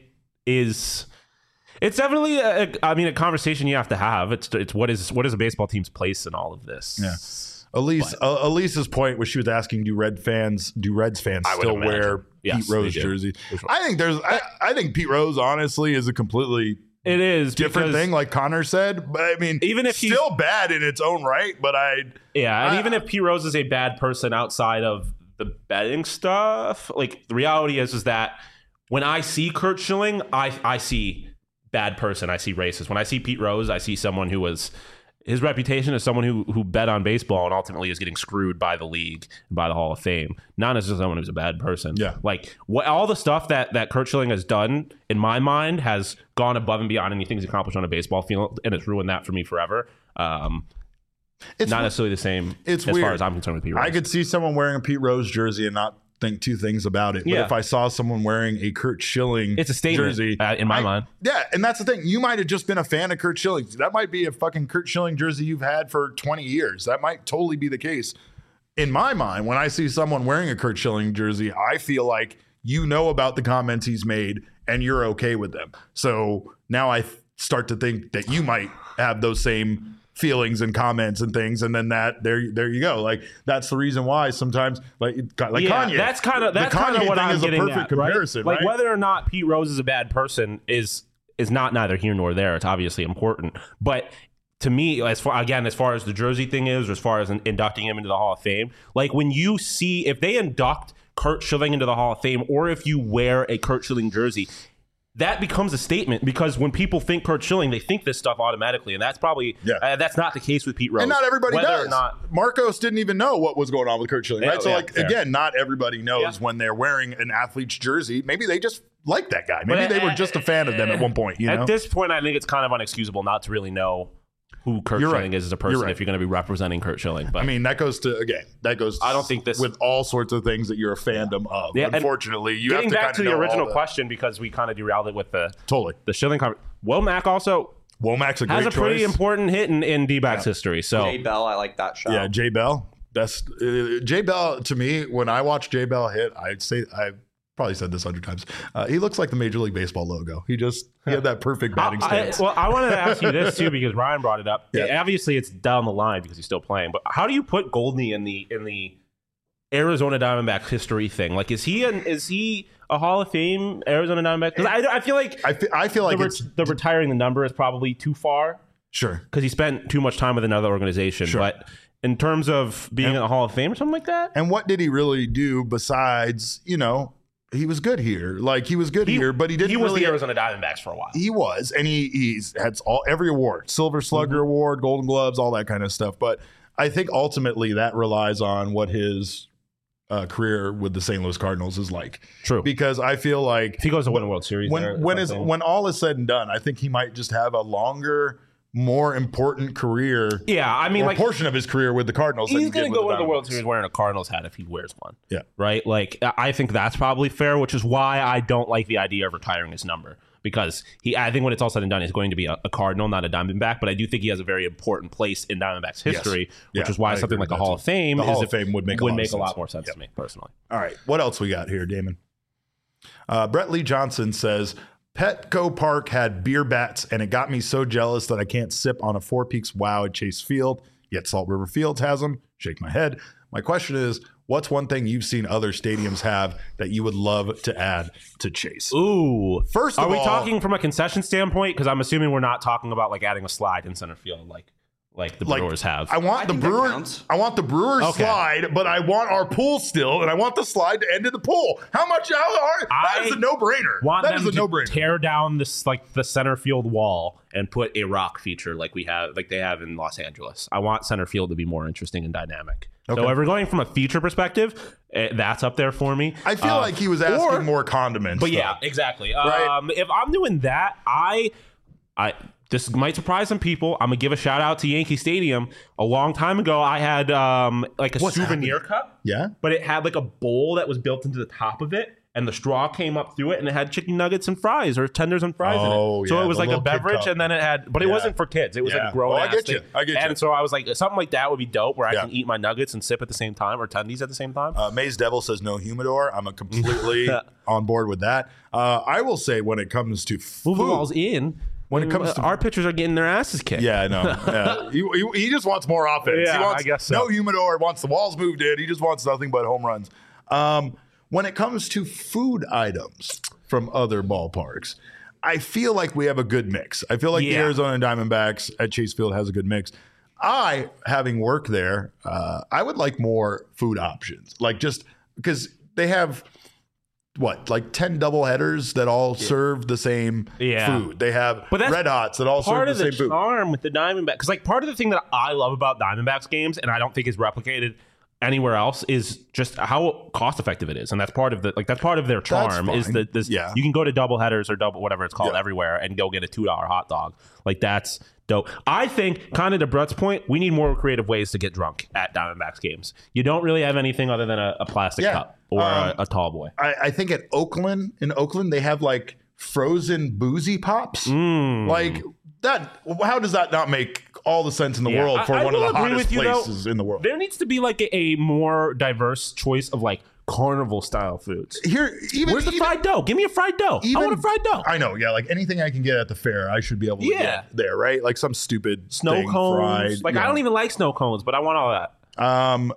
is. It's definitely, a, a, I mean, a conversation you have to have. It's it's what is what is a baseball team's place in all of this? Yeah. Elise, uh, Elise's point was she was asking, do Red fans, do Reds fans I would still imagine. wear Yes, Pete Rose they do. jersey? For sure. I think there's, I, I think Pete Rose honestly is a completely It is different because- thing, like Connor said. But I mean, Even if he's- still bad in its own right, but I, Yeah, and I- even if Pete Rose is a bad person outside of the betting stuff, like the reality is, is that when I see Kurt Schilling, I I see bad person. I see racist. When I see Pete Rose, I see someone who was his reputation as someone who who bet on baseball and ultimately is getting screwed by the league and by the Hall of Fame. Not as someone who's a bad person. Yeah. like what all the stuff that that Kurt Schilling has done in my mind has gone above and beyond anything he's accomplished on a baseball field, and it's ruined that for me forever. Um, it's not necessarily the same it's as weird. far as I'm concerned with Pete Rose. I could see someone wearing a Pete Rose jersey and not think two things about it. But Yeah. if I saw someone wearing a Kurt Schilling It's a statement, jersey, uh, in my I- mind. Yeah, and that's the thing. You might have just been a fan of Kurt Schilling. That might be a fucking Kurt Schilling jersey you've had for twenty years. That might totally be the case. In my mind, when I see someone wearing a Kurt Schilling jersey, I feel like you know about the comments he's made and you're okay with them. So now I th- start to think that you might have those same feelings and comments and things, and then that there there you go. Like that's the reason why sometimes like like yeah, Kanye. that's kind of The that's kind Kanye of what thing I'm is a getting perfect at, comparison, right? Like right? whether or not Pete Rose is a bad person is is not neither here nor there. It's obviously important, but to me, as far again as far as the jersey thing is, or as far as in, inducting him into the Hall of Fame, like when you see if they induct Kurt Schilling into the Hall of Fame, or if you wear a Kurt Schilling jersey, that becomes a statement because when people think Kurt Schilling, they think this stuff automatically, and that's probably Yeah. uh, that's not the case with Pete Rose. And not everybody Whether does. Or not, Marcos didn't even know what was going on with Kurt Schilling, Yeah, right? So, yeah, like, fair. again, not everybody knows Yeah. when they're wearing an athlete's jersey. Maybe they just like that guy. Maybe But, they were uh, just a fan of them at one point, you at know? this point, I think it's kind of unexcusable not to really know who Kurt You're Schilling right. is as a You're person right. if you're going to be representing Kurt Schilling. But I mean, that goes to, again, that goes I don't think this- with all sorts of things that you're a fandom of. Yeah, and Unfortunately, you have getting to back kind to of the know all original the- question, because we kind of derailed it with the Totally. the Schilling conversation. Womack also Womack's a great has a pretty choice. important hit in, in D-backs history. So Jay Bell, I like that shot. Yeah, Jay Bell. Best. Uh, Jay Bell, to me, when I watch Jay Bell hit, I'd say, I've probably said this a hundred times. Uh, he looks like the Major League Baseball logo. He just, he had that perfect batting I, stance. well, I wanted to ask you this too because Ryan brought it up. Yeah. Obviously, it's down the line because he's still playing. But how do you put Goldney in the in the Arizona Diamondbacks history thing? Like, is he an is he a Hall of Fame Arizona Diamondback? Because I, I feel like I, fe- I feel like the, it's, re- the retiring the number is probably too far sure. because he spent too much time with another organization. Sure. But in terms of being And- in the Hall of Fame or something like that, And what did he really do besides, you know, he was good here. Like he was good here, but he didn't he was really the Arizona Diamondbacks for a while. He was, and he he's had all every award, Silver Slugger Mm-hmm. Award, Golden Gloves, all that kind of stuff. But I think ultimately that relies on what his uh, career with the Saint Louis Cardinals is like. True. Because I feel like If he goes to win a World Series, there, when when is something. when all is said and done, I think he might just have a longer more important career. Yeah, I mean, or like portion of his career with the Cardinals. he's going to go into the World Series wearing a Cardinals hat if he wears one. Yeah, right. Like I think that's probably fair, which is why I don't like the idea of retiring his number because he. I think when it's all said and done, he's going to be a, a Cardinal, not a Diamondback. But I do think he has a very important place in Diamondbacks history, yes. which yeah, is why I something like the a Hall of Fame, the is Hall if, of Fame would make a would lot, make of a lot sense. more sense yep. to me personally. All right, what else we got here, Damon? Uh, Brett Lee Johnson says. Petco Park had beer bats, and it got me so jealous that I can't sip on a Four Peaks Wow at Chase Field, yet Salt River Fields has them. Shake my head. My question is, what's one thing you've seen other stadiums have that you would love to add to Chase? Ooh. First of Are we all- talking from a concession standpoint? Because I'm assuming we're not talking about like adding a slide in center field like like the Like, Brewers have. I want I the think that Brewers. counts. I want the Brewers Okay. slide, but I want our pool still, and I want the slide to end in the pool. How much? How are, that I is a no-brainer. want That them is a to no-brainer. tear down this like the center field wall and put a rock feature like we have like they have in Los Angeles. I want center field to be more interesting and dynamic. Okay. So if we're going from a feature perspective, eh, that's up there for me. I feel Uh, like he was asking or- more condiments. But though. yeah, exactly. Right. Um, if I'm doing that, I, I this might surprise some people. I'm gonna give a shout out to Yankee Stadium. A long time ago, I had um like a What's souvenir happening? cup. Yeah? But it had like a bowl that was built into the top of it, and the straw came up through it, and it had chicken nuggets and fries or tenders and fries Oh, in it. So yeah, it was the like a little kid beverage, cup. and then it had, but it Yeah. wasn't for kids. It was Yeah. like grown. Oh, I ass get thing. you. I get you. And so I was like, something like that would be dope, where I Yeah. can eat my nuggets and sip at the same time, or tendies at the same time. Uh, Maze Devil says no humidor. I'm a completely on board with that. Uh, I will say when it comes to food, Move the walls in. When it comes to- our pitchers are getting their asses kicked. yeah, I know. Yeah. he, he, he just wants more offense. Yeah, he wants I guess so. no humidor. Wants the walls moved in. He just wants nothing but home runs. Um, when it comes to food items from other ballparks, I feel like we have a good mix. I feel like the Yeah. Arizona Diamondbacks at Chase Field has a good mix. I, having worked there, uh, I would like more food options. Like just because they have what, like ten double headers that all serve the same Yeah. food. They have But that's red hots that all serve part the of the same food. charm with the Diamondbacks, because like part of the thing that I love about Diamondbacks games, and I don't think is replicated anywhere else, is just how cost effective it is, and that's part of the like that's part of their charm. Is fine. that this Yeah. you can go to double headers or double whatever it's called Yeah. everywhere and go get a two dollar hot dog. Like that's dope. I think, kind of to Brett's point, we need more creative ways to get drunk at Diamondbacks games. You don't really have anything other than a, a plastic Yeah. cup or Um, a, a tall boy. I, I think at Oakland, in Oakland, they have like frozen boozy pops. Mm. Like that. How does that not make all the sense in the Yeah. world for I- I one of will the agree hottest with you, though. places in the world? There needs to be like a, a more diverse choice of like carnival style foods. Here, even Where's the even, fried dough? Give me a fried dough. I even- want a fried dough. I know, yeah, like anything I can get at the fair, I should be able to Yeah. get there, right? Like some stupid Snow thing cones. fried. like you I don't know. even like snow cones, but I want all that. Um,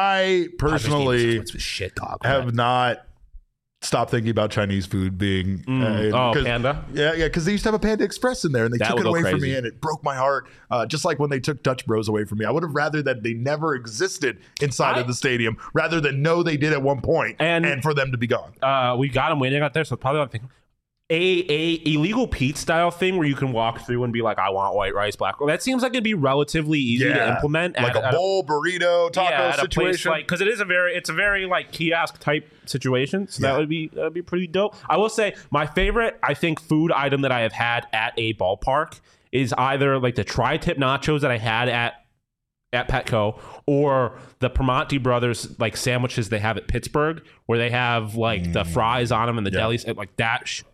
I personally What's with shit dog? have not stopped thinking about Chinese food being Mm. uh, Oh, 'cause- Panda? Yeah, yeah, because they used to have a Panda Express in there, and they That took would it go away from crazy. me, and it broke my heart. Uh, just like when they took Dutch Bros away from me, I would have rather that they never existed inside I- of the stadium, rather than know they did at one point, And- and, for them to be gone. Uh, we got them waiting out there, so probably I'm thinking a a illegal Pete style thing where you can walk through and be like, I want white rice, black. That seems like it'd be relatively easy to implement. like at, a at bowl burrito taco yeah, at a place situation. like because it is a very it's a very like kiosk type situation. So Yeah. that would be that would be pretty dope. I will say my favorite I think food item that I have had at a ballpark is either like the tri-tip nachos that I had at at Petco or the Primanti Brothers like sandwiches they have at Pittsburgh where they have like the fries on them and the Yeah. delis like that. Sh-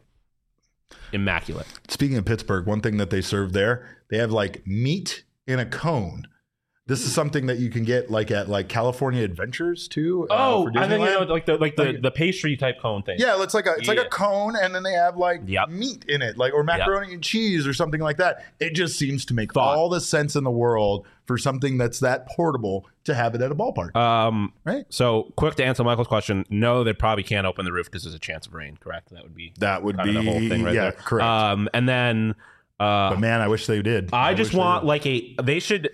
immaculate. Speaking of Pittsburgh, one thing that they serve there, they have like meat in a cone. This is something that you can get like at like California Adventures too. uh, Oh, for and then you know Disneyland. like the like the, Like- the pastry type cone thing. Yeah, it's like a it's like Yeah. a cone, and then they have like Yep. meat in it, like or macaroni and cheese or something like that. It just seems to make Thought. all the sense in the world for something that's that portable to have it at a ballpark, Um, right? So, quick to answer Michael's question, no, they probably can't open the roof because there's a chance of rain. Correct? That would be That would kind be of the whole thing right yeah, there. correct. Um, and then uh, but man, I wish they did. I just wish they want did. like a they should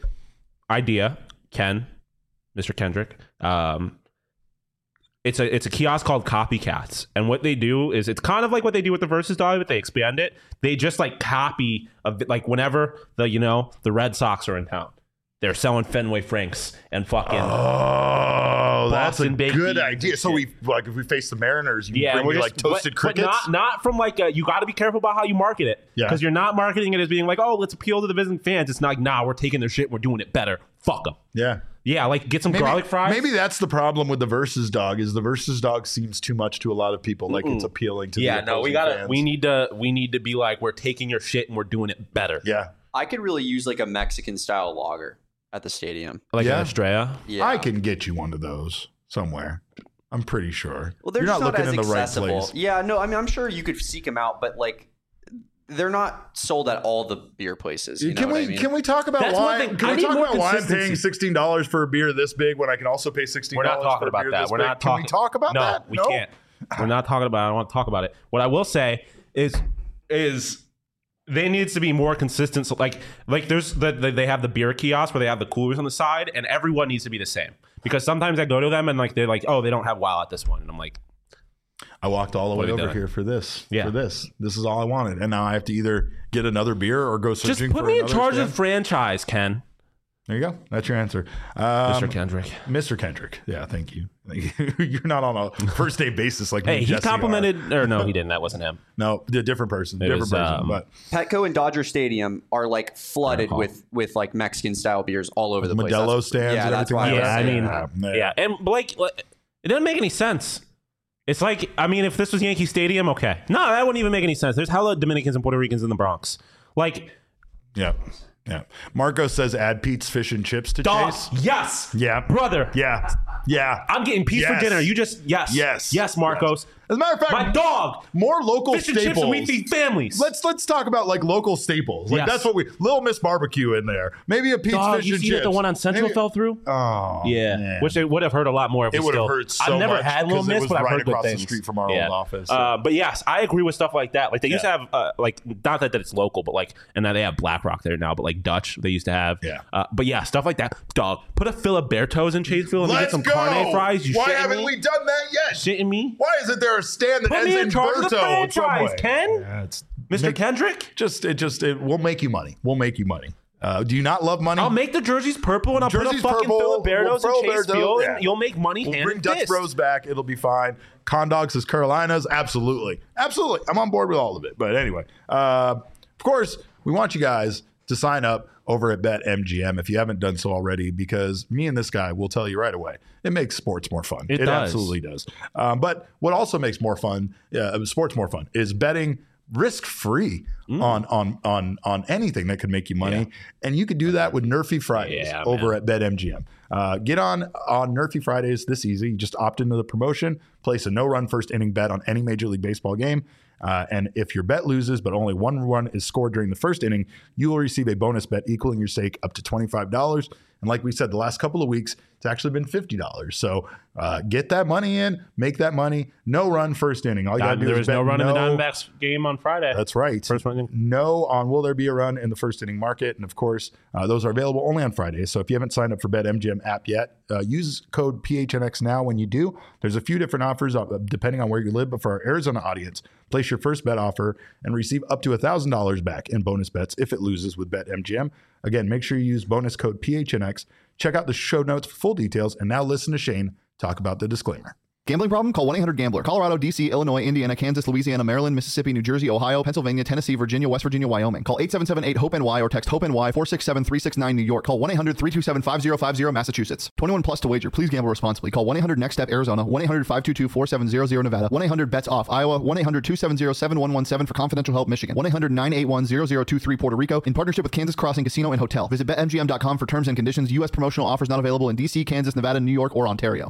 idea Ken, Mister Kendrick. Um, it's a it's a kiosk called Copycats, and what they do is it's kind of like what they do with the Versus Dolly, but they expand it. They just like copy of like whenever the you know the Red Sox are in town. They're selling Fenway Franks and fucking. Oh, that's a baked good beans idea. and So shit. we like if we face the Mariners, you Yeah, bring we're me just, like toasted but, crickets. but not not from like a, you got to be careful about how you market it Yeah. because you're not marketing it as being like, oh, let's appeal to the visiting fans. It's not like, nah, we're taking their shit and we're doing it better. Fuck them. yeah. Yeah, like get some Maybe, garlic fries. maybe that's the problem with the versus dog is the versus dog seems too much to a lot of people. Like it's appealing to Yeah, the no, we opposing gotta. fans. We need to. We need to be like, we're taking your shit and we're doing it better. Yeah. I could really use like a Mexican style lager at the stadium. Like Yeah. an Estrella. Yeah. I can get you one of those somewhere. I'm pretty sure. Well, they're You're just not not, looking as in the right accessible. place. Yeah, no, I mean, I'm sure you could seek them out, but like, they're not sold at all the beer places. You know can what we I mean? can we talk about That's one why? thing. Can I we need talk more about why I'm consistency. paying sixteen dollars for a beer this big when I can also pay sixteen We're dollars not talking for a about beer that. this We're big? not Can talking. we talk about no, that? we can't. We're not talking about it. I don't want to talk about it. What I will say is, is they needs to be more consistent. So like, like there's the, the they have the beer kiosk where they have the coolers on the side, and everyone needs to be the same. Because sometimes I go to them and like they're like, oh, they don't have WoW at this one, and I'm like, I walked all the What way have you over done? here for this. Yeah. For this. This is all I wanted. And now I have to either get another beer or go just searching put for me in another charge of stand. the franchise, Ken. There you go. That's your answer. Um, Mister Kendrick. Mister Kendrick. Yeah, thank you. Thank you. You're not on a first day basis like me Hey, and he Jesse are. complimented, or no, he didn't. That wasn't him. No, a different person. It different was, person. um, but Petco and Dodger Stadium are like flooded Recall. with with like Mexican style beers all over the place. Modelo That's- stands yeah, and that's everything why like was Yeah, I saying mean, that. yeah, and Blake, like, it doesn't make any sense. It's like, I mean, if this was Yankee Stadium, okay. No, that wouldn't even make any sense. There's hella Dominicans and Puerto Ricans in the Bronx. Like, yeah. Yeah. Marco says add Pete's fish and chips to dog, Chase. yes. Yeah. Brother. Yeah. Yeah. I'm getting Pete's Yes. for dinner. You just, yes. Yes. Yes, Marcos. As a matter of fact, My dog. more local Fish and staples. chips and we feed families. Let's let's talk about like local staples. Like Yes. that's what we Little Miss Barbecue in there. Maybe a Pete's Dog, fish you and see chips. that the one on Central Maybe- fell through? Oh Yeah, man. which it would have hurt a lot more if It we would have still. hurt so I've never much had Little 'cause it Miss, was but I've right heard good across the things. street from our old office, so. Uh, but yes, I agree with stuff like that. Like they used Yeah. to have, uh, like not that, that it's local, but like, and now they have Black Rock there now, but like Dutch they used to have. Yeah. Uh, but yeah, stuff like that. Dog, put a Filiberto's in Chaseville and we get Let's some go. carne fries. You Why shitting haven't me? we done that yet? Shitting me? Why isn't there a stand that Put ends me in in charge of the Berto in some franchise, way? Ken. Yeah, it's Mister make- Kendrick. Just it just it will make you money. We'll make you money. Uh, do you not love money? I'll make the jerseys purple and I'll Jerseys put a fucking purple, Filiberto's we'll in throw Chaseville Berto, yeah. and you'll make money We'll hand bring and Dutch fist. Bros back. It'll be fine. Condogs is Carolinas. Absolutely. Absolutely. I'm on board with all of it. But anyway, uh, of course, we want you guys to sign up over at BetMGM if you haven't done so already, because me and this guy will tell you right away, it makes sports more fun. It It, does. absolutely does. Um, but what also makes more fun, uh, sports more fun, is betting risk-free Mm. on on on on anything that could make you money, and you could do that with Nerfy Fridays Yeah, over man. at BetMGM. Uh, get on on Nerfy Fridays this easy. You just opt into the promotion, place a no-run first inning bet on any Major League Baseball game, uh, and if your bet loses but only one run is scored during the first inning, you will receive a bonus bet equaling your stake up to twenty-five dollars. And like we said, the last couple of weeks, it's actually been fifty dollars. So uh, get that money in, make that money. No run first inning. All you got to do There is was bet no run in the no- Diamondbacks game on Friday. That's right. First one. No on will there be a run in the first inning market. And of course, uh, those are available only on Fridays. So if you haven't signed up for BetMGM app yet, uh, use code P H N X now when you do. There's a few different offers uh, depending on where you live. But for our Arizona audience, place your first bet offer and receive up to one thousand dollars back in bonus bets if it loses with BetMGM. Again, make sure you use bonus code P H N X. Check out the show notes for full details. And now listen to Shane talk about the disclaimer. Gambling problem? Call one eight hundred gambler. Colorado, D C, Illinois, Indiana, Kansas, Louisiana, Maryland, Mississippi, New Jersey, Ohio, Pennsylvania, Tennessee, Virginia, West Virginia, Wyoming. Call eight seven seven eight hope N Y or text HOPE-NY four six seven three six nine New York. Call one eight hundred three two seven five zero five zero Massachusetts. twenty-one plus to wager. Please gamble responsibly. Call one eight hundred next step Arizona. one eight hundred five two two four seven zero zero Nevada. one eight hundred bets off Iowa. one eight hundred two seven zero seven one one seven for confidential help Michigan. one eight hundred nine eight one zero zero two three Puerto Rico in partnership with Kansas Crossing Casino and Hotel. Visit bet M G M dot com for terms and conditions. U S promotional offers not available in D C, Kansas, Nevada, New York, or Ontario.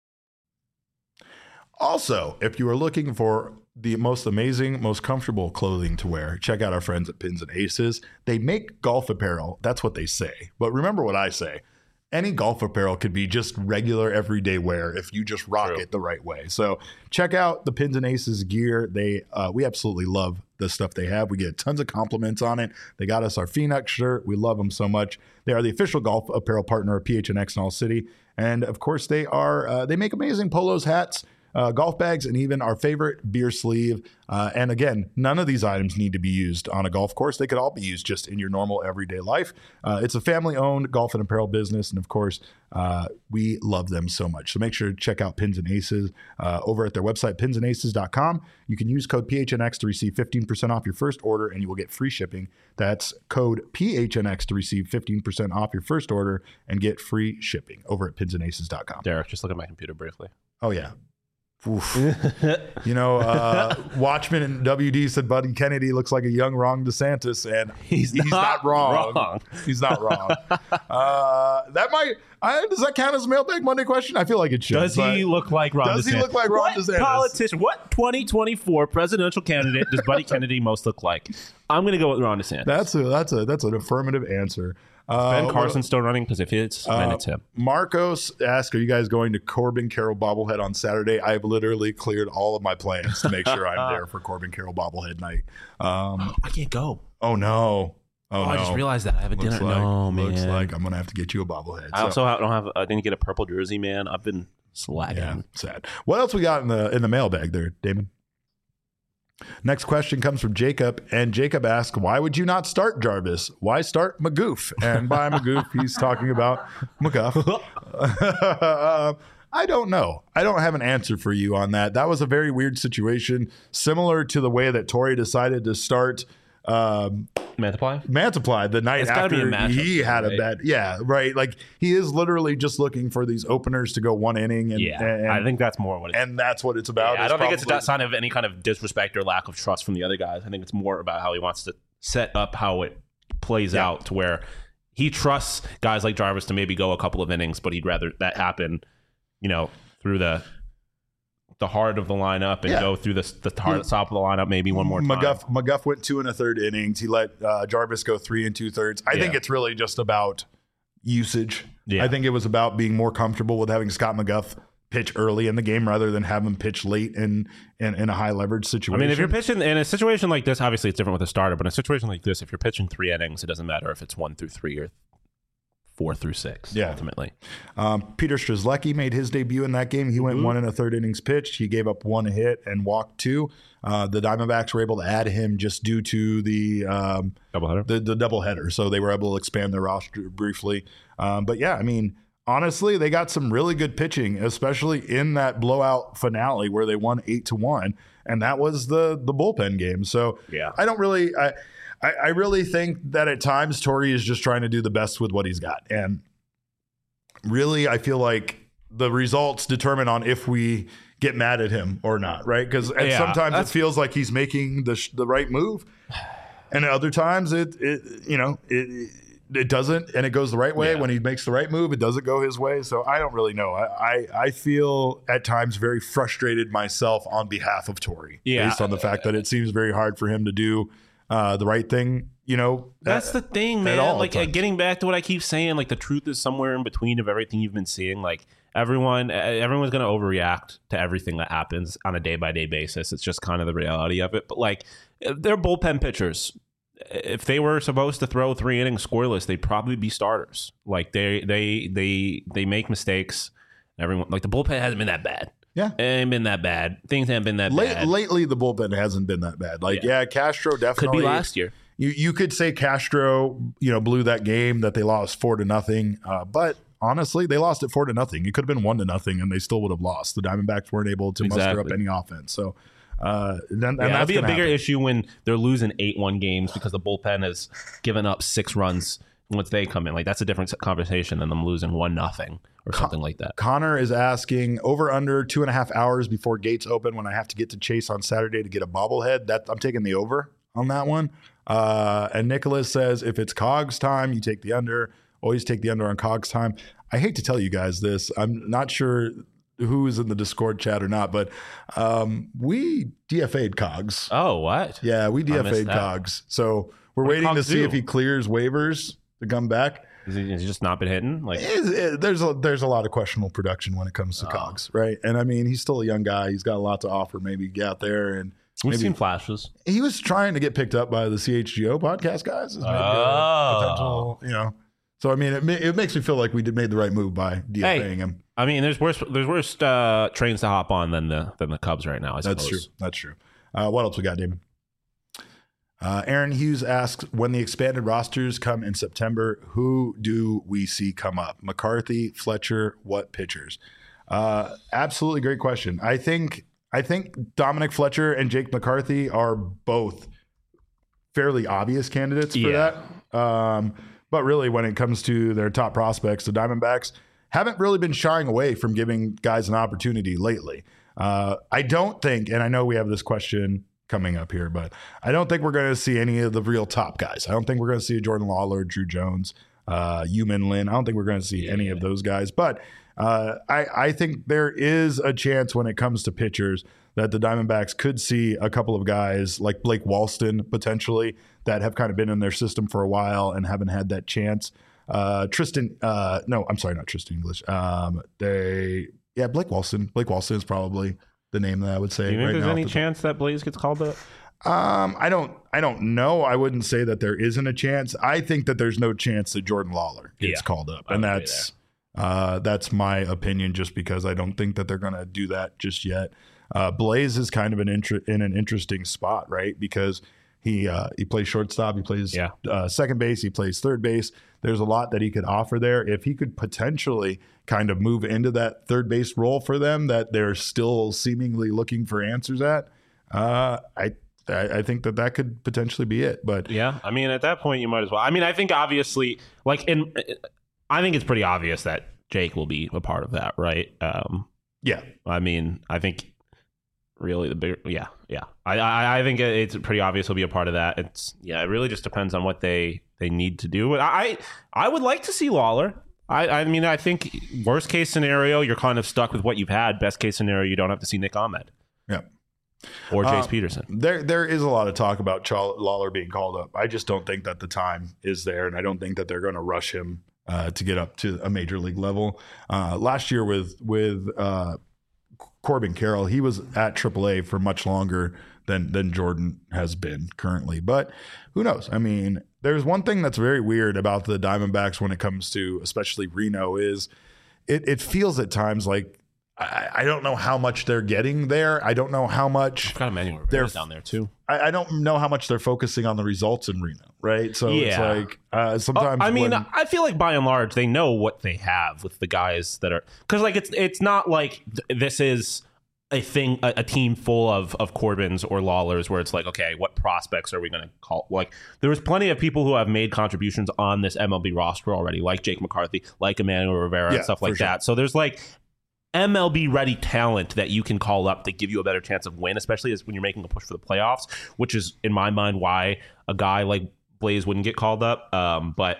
Also, if you are looking for the most amazing, most comfortable clothing to wear, check out our friends at Pins and Aces. They make golf apparel. That's what they say. But remember what I say. Any golf apparel could be just regular everyday wear if you just rock True. it the right way. So check out the Pins and Aces gear. They uh, we absolutely love the stuff they have. We get tons of compliments on it. They got us our Phoenix shirt. We love them so much. They are the official golf apparel partner of P H N X in all city. And of course, they are uh, they make amazing polos, hats, uh, golf bags, and even our favorite beer sleeve. Uh, and again, none of these items need to be used on a golf course. They could all be used just in your normal everyday life. Uh, it's a family-owned golf and apparel business, and of course, uh, we love them so much. So make sure to check out Pins and Aces uh, over at their website, pins and aces dot com. You can use code P H N X to receive fifteen percent off your first order, and you will get free shipping. That's code P H N X to receive fifteen percent off your first order and get free shipping over at pins and aces dot com. Derek, just look at my computer briefly. Oh, yeah. Oof. You know, uh, Watchman and W D said Buddy Kennedy looks like a young Ron DeSantis, and He's he's not not, wrong. wrong. He's not wrong. uh, that might I, does that count as a Mailbag Monday question? I feel like it should. Does he but look like Ron Does DeSantis? he look like Ron what DeSantis? Politician, what twenty twenty-four presidential candidate does Buddy Kennedy most look like? I'm going to go with Ron DeSantis. That's a that's a that's an affirmative answer. Uh, Ben Carson's still running because if it's uh, then it's him. Marcos asked, "Are you guys going to Corbin Carroll bobblehead on Saturday?" I've literally cleared all of my plans to make sure I'm there for Corbin Carroll bobblehead night. Um, I can't go. oh no! Oh, Oh, no! I just realized that I have a Looks dinner. like, no, man. looks like I'm gonna have to get you a bobblehead. I So, also ha- don't have. I didn't get a purple jersey, man. I've been slacking. yeah, sad. What else we got in the in the mailbag there, Damon? Next question comes from Jacob, and Jacob asks, "Why would you not start Jarvis? Why start McGoof?" And by McGoof, he's talking about McGuff. uh, I don't know. I don't have an answer for you on that. That was a very weird situation, similar to the way that Torrey decided to start um, Multiply. Mantiply the night It's gotta be a after matchup, he had right? a bad. Yeah, right. Like he is literally just looking for these openers to go one inning, and Yeah, and, I think that's more what it is. and that's what it's about. Yeah, I is don't think it's probably- a sign of any kind of disrespect or lack of trust from the other guys. I think it's more about how he wants to set up how it plays Yeah. out to where he trusts guys like Jarvis to maybe go a couple of innings, but he'd rather that happen, you know, through the the heart of the lineup and Yeah. go through the the heart, top of the lineup maybe one more time. McGuff McGuff went two and a third innings. He let uh, Jarvis go three and two thirds. I think Yeah. it's really just about usage. Yeah. I think it was about being more comfortable with having Scott McGuff pitch early in the game rather than have him pitch late in in, in a high leverage I situation. mean, if you're pitching in a situation like this, obviously it's different with a starter, but in a situation like this, if you're pitching three innings, it doesn't matter if it's one through three or four through six, Yeah. ultimately. Um, Peter Strzelecki made his debut in that game. He went Mm-hmm. one and a third innings pitched. He gave up one hit and walked two. Uh, the Diamondbacks were able to add him just due to the um, Doubleheader. the the doubleheader, so they were able to expand their roster briefly. Um, but yeah, I mean, honestly, they got some really good pitching, especially in that blowout finale where they won eight to one, and that was the the bullpen game. So Yeah. I don't really. I, I, I really think that at times Torrey is just trying to do the best with what he's got. And really, I feel like the results determine on if we get mad at him or not, right? Because Yeah, sometimes it that's- feels like he's making the, sh- the right move. And at other times, it, it you know, it, it doesn't, and it goes the right way. Yeah. When he makes the right move, it doesn't go his way. So I don't really know. I, I, I feel at times very frustrated myself on behalf of Torrey, Yeah. based on the fact that it seems very hard for him to do uh, the right thing, you know. That's at- the thing, at man. all Like times. uh, getting back to what I keep saying, like the truth is somewhere in between of everything you've been seeing. Like everyone, uh, everyone's going to overreact to everything that happens on a day by day basis. It's just kind of the reality of it. But like they're bullpen pitchers. If they were supposed to throw three innings scoreless, they'd probably be starters. Like they they they they make mistakes. Everyone like the bullpen hasn't been that bad. Yeah. It ain't been that bad. Things haven't been that Late, bad. lately, the bullpen hasn't been that bad. Like, yeah, Yeah. Castro definitely Could be last year. You you could say Castro, you know, blew that game that they lost four to nothing. Uh, but honestly, they lost it four to nothing. It could have been one to nothing, and they still would have lost. The Diamondbacks weren't able to muster up Exactly. any offense. So, uh, then, and Yeah, it'll that's be a gonna bigger happen. issue when they're losing eight one games because the bullpen has given up six runs once they come in. Like that's a different conversation than them losing one nothing or something like that. Connor is asking over under two and a half hours before gates open when I have to get to Chase on Saturday to get a bobblehead. That I'm taking the over on that one. Uh, and Nicholas says if it's Cogs time, you take the under. Always take the under on Cogs time. I hate to tell you guys this. I'm not sure who is in the Discord chat or not, but um, we D F A'd Cogs. Oh, what? Yeah, we D F missed A'd that. Cogs. So we're What did waiting to Cogs see do? if he clears waivers to come back. Has he, has he just not been hitting? Like, It- it- there's a there's a lot of questionable production when it comes to Oh. Cogs, right? And I mean, he's still a young guy. He's got a lot to offer. Maybe get out there and we've maybe seen flashes. he was trying to get picked up by the C H G O podcast guys. As maybe a Oh. potential, you know. So I mean, it ma- it makes me feel like we did made the right move by DFAing Hey, him. I mean, there's worse there's worse uh, trains to hop on than the than the Cubs right now. I That's suppose. true. That's true. Uh, what else we got, Damon? Uh, Aaron Hughes asks, when the expanded rosters come in September, who do we see come up? McCarthy, Fletcher, what pitchers? Uh, absolutely great question. I think I think Dominic Fletcher and Jake McCarthy are both fairly obvious candidates for Yeah. that. Um, but really, when it comes to their top prospects, the Diamondbacks haven't really been shying away from giving guys an opportunity lately. Uh, I don't think, and I know we have this question coming up here, but I don't think we're going to see any of the real top guys. I don't think we're going to see Jordan Lawler, Drew Jones, uh, Yumin Lin. I don't think we're going to see yeah. any of those guys. But uh, I, I think there is a chance when it comes to pitchers that the Diamondbacks could see a couple of guys like Blake Walston potentially that have kind of been in their system for a while and haven't had that chance. Uh, Tristan, uh, no, I'm sorry, not Tristan English. Um, they, yeah, Blake Walston. Blake Walston is probably the name that I would say. Do you think right there's now any the chance that Blaze gets called up? Um, I don't, I don't know. I wouldn't say that there isn't a chance. I think that there's no chance that Jordan Lawler gets Yeah, called up, I and would agree that's, uh, that's my opinion. Just because I don't think that they're going to do that just yet. Uh, Blaze is kind of an inter- in an interesting spot, right? Because he uh, he plays shortstop, he plays Yeah. uh, second base, he plays third base. There's a lot that he could offer there. If he could potentially kind of move into that third base role for them that they're still seemingly looking for answers at, uh, I, I I think that that could potentially be it. But Yeah, I mean, at that point, you might as well. I mean, I think obviously, like, in, I think it's pretty obvious that Jake will be a part of that, right? Um, yeah, I mean, I think really the bigger, yeah, yeah. I, I, I think it's pretty obvious he'll be a part of that. It's yeah, it really just depends on what they they need to do. I I would like to see Lawler. I, I mean, I think worst case scenario, you're kind of stuck with what you've had. Best case scenario, you don't have to see Nick Ahmed. yeah. Or Jace Um, Peterson. There, there is a lot of talk about Chal- Lawler being called up. I just don't think that the time is there, and I don't think that they're going to rush him uh, to get up to a major league level. Uh, last year with with uh, Corbin Carroll, he was at triple A for much longer than than Jordan has been currently. But who knows? I mean, there's one thing that's very weird about the Diamondbacks when it comes to especially Reno is it, it feels at times like I, I don't know how much they're getting there. I don't know how much I've got Emmanuel they're Rivera down there too. I, I don't know how much they're focusing on the results in Reno, right? So it's Yeah. like uh, sometimes. I mean, when- I feel like by and large they know what they have with the guys that are because like it's it's not like th- this is a thing a, a team full of of Corbins or Lawlers where it's like, okay, what prospects are we going to call? Like there was plenty of people who have made contributions on this M L B roster already, like Jake McCarthy, like Emmanuel Rivera, Yeah, and stuff for like sure. that. So there's like M L B ready talent that you can call up to give you a better chance of win, especially as when you're making a push for the playoffs, which is in my mind why a guy like Blaze wouldn't get called up. Um, but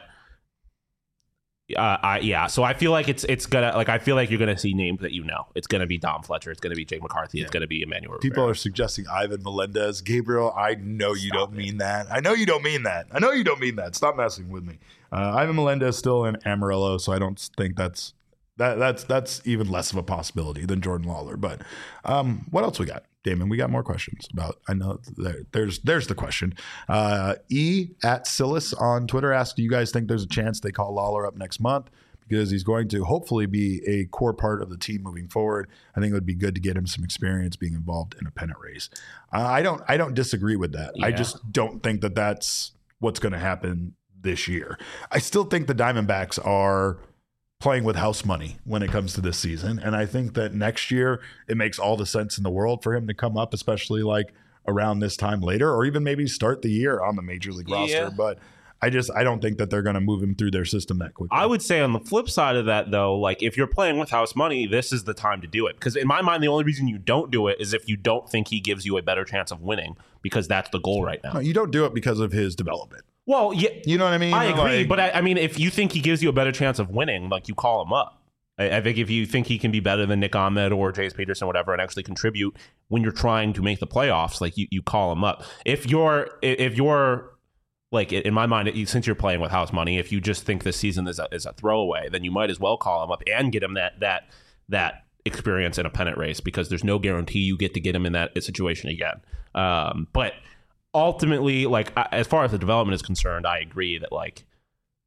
uh, I yeah, so I feel like it's it's gonna like I feel like you're gonna see names that you know. It's gonna be Dom Fletcher. It's gonna be Jake McCarthy. It's gonna be Emmanuel. People Rivera. are suggesting Ivan Melendez. Gabriel, I know you don't mean that. I know you don't mean that. I know you don't mean that. Stop messing with me. Uh, Ivan Melendez still in Amarillo, so I don't think that's that that's that's even less of a possibility than Jordan Lawler. But um, what else we got, Damon? We got more questions about. I know there, there's there's the question. Uh, E at Silas on Twitter asks, do you guys think there's a chance they call Lawler up next month? Because he's going to hopefully be a core part of the team moving forward. I think it would be good to get him some experience being involved in a pennant race. Uh, I don't I don't disagree with that. I Yeah. just don't think that that's what's going to happen this year. I still think the Diamondbacks are playing with house money when it comes to this season. And I think that next year it makes all the sense in the world for him to come up, especially like around this time later, or even maybe start the year on the major league roster. Yeah. But I just I don't think that they're going to move him through their system that quickly. I would say on the flip side of that, though, like if you're playing with house money, this is the time to do it. Because in my mind, the only reason you don't do it is if you don't think he gives you a better chance of winning, because that's the goal right now. No, you don't do it because of his development. Well, yeah, You know what I mean? I agree, Like, but I, I mean, if you think he gives you a better chance of winning, like you call him up. I, I think if you think he can be better than Nick Ahmed or Jace Peterson, whatever, and actually contribute when you're trying to make the playoffs, like you, you call him up. If you're, if you're like in my mind, since you're playing with house money, if you just think this season is a, is a throwaway, then you might as well call him up and get him that that that experience in a pennant race, because there's no guarantee you get to get him in that situation again. Um, but ultimately, like as far as the development is concerned, I agree that like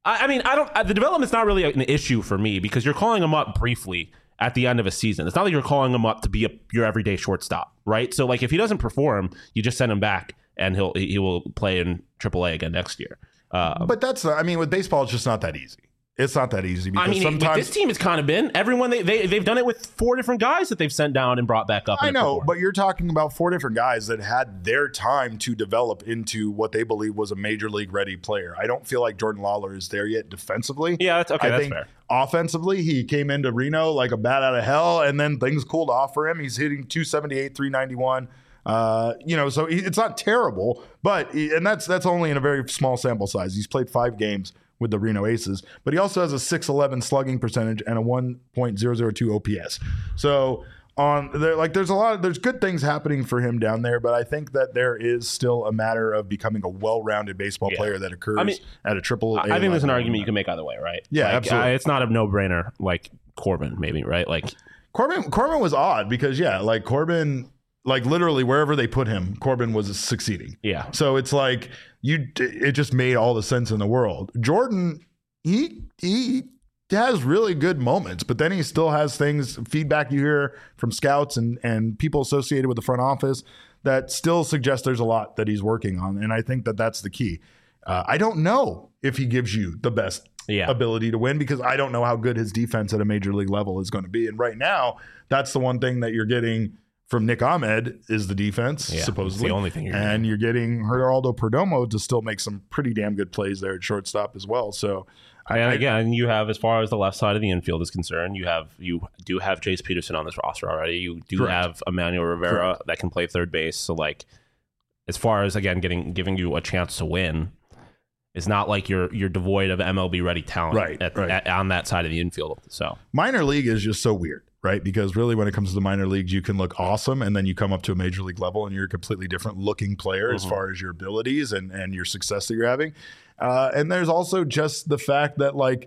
I, I mean, I don't. Uh, the development's not really an issue for me because you're calling him up briefly at the end of a season. It's not like you're calling him up to be a, your everyday shortstop, right? So, like, if he doesn't perform, you just send him back, and he'll he will play in triple A again next year. Uh, but that's, I mean, with baseball, it's just not that easy. It's not that easy because I mean, sometimes with this team, it's kind of been everyone. They they they've done it with four different guys that they've sent down and brought back up. I know, but you're talking about four different guys that had their time to develop into what they believe was a major league ready player. I don't feel like Jordan Lawler is there yet defensively. Yeah, that's okay. I that's think fair. Offensively, he came into Reno like a bat out of hell, and then things cooled off for him. He's hitting two seventy-eight, three ninety-one. Uh, you know, so he, it's not terrible, but he, and that's that's only in a very small sample size. He's played five games with the Reno Aces, but he also has a six eleven slugging percentage and a one point zero zero two O P S. So on there, like there's a lot of there's good things happening for him down there, but I think that there is still a matter of becoming a well-rounded baseball Yeah. player that occurs I mean, at a triple A I think there's an level. argument you can make either way, right? Yeah, Like, absolutely. Uh, it's not a no-brainer like Corbin, maybe, right? Like Corbin Corbin was odd because yeah, like Corbin, like literally wherever they put him, Corbin was succeeding. Yeah. So it's like you, it just made all the sense in the world. Jordan, he he has really good moments, but then he still has things, feedback you hear from scouts and and people associated with the front office that still suggest there's a lot that he's working on, and I think that that's the key. Uh, I don't know if he gives you the best Yeah. ability to win because I don't know how good his defense at a major league level is going to be, and right now that's the one thing that you're getting from Nick Ahmed is the defense, Yeah, supposedly. it's the only thing you're and you're getting Geraldo Perdomo to still make some pretty damn good plays there at shortstop as well. So, I, and I- again, you have, as far as the left side of the infield is concerned, you have you do have Jace Peterson on this roster already. You do Correct. have Emmanuel Rivera that can play third base. So, like, as far as again getting giving you a chance to win, it's not like you're you're devoid of M L B ready talent Right, at, right. At, on that side of the infield. So, minor league is just so weird, right? Because really when it comes to the minor leagues, you can look awesome and then you come up to a major league level and you're a completely different looking player as far as your abilities and, and your success that you're having. Uh, and there's also just the fact that like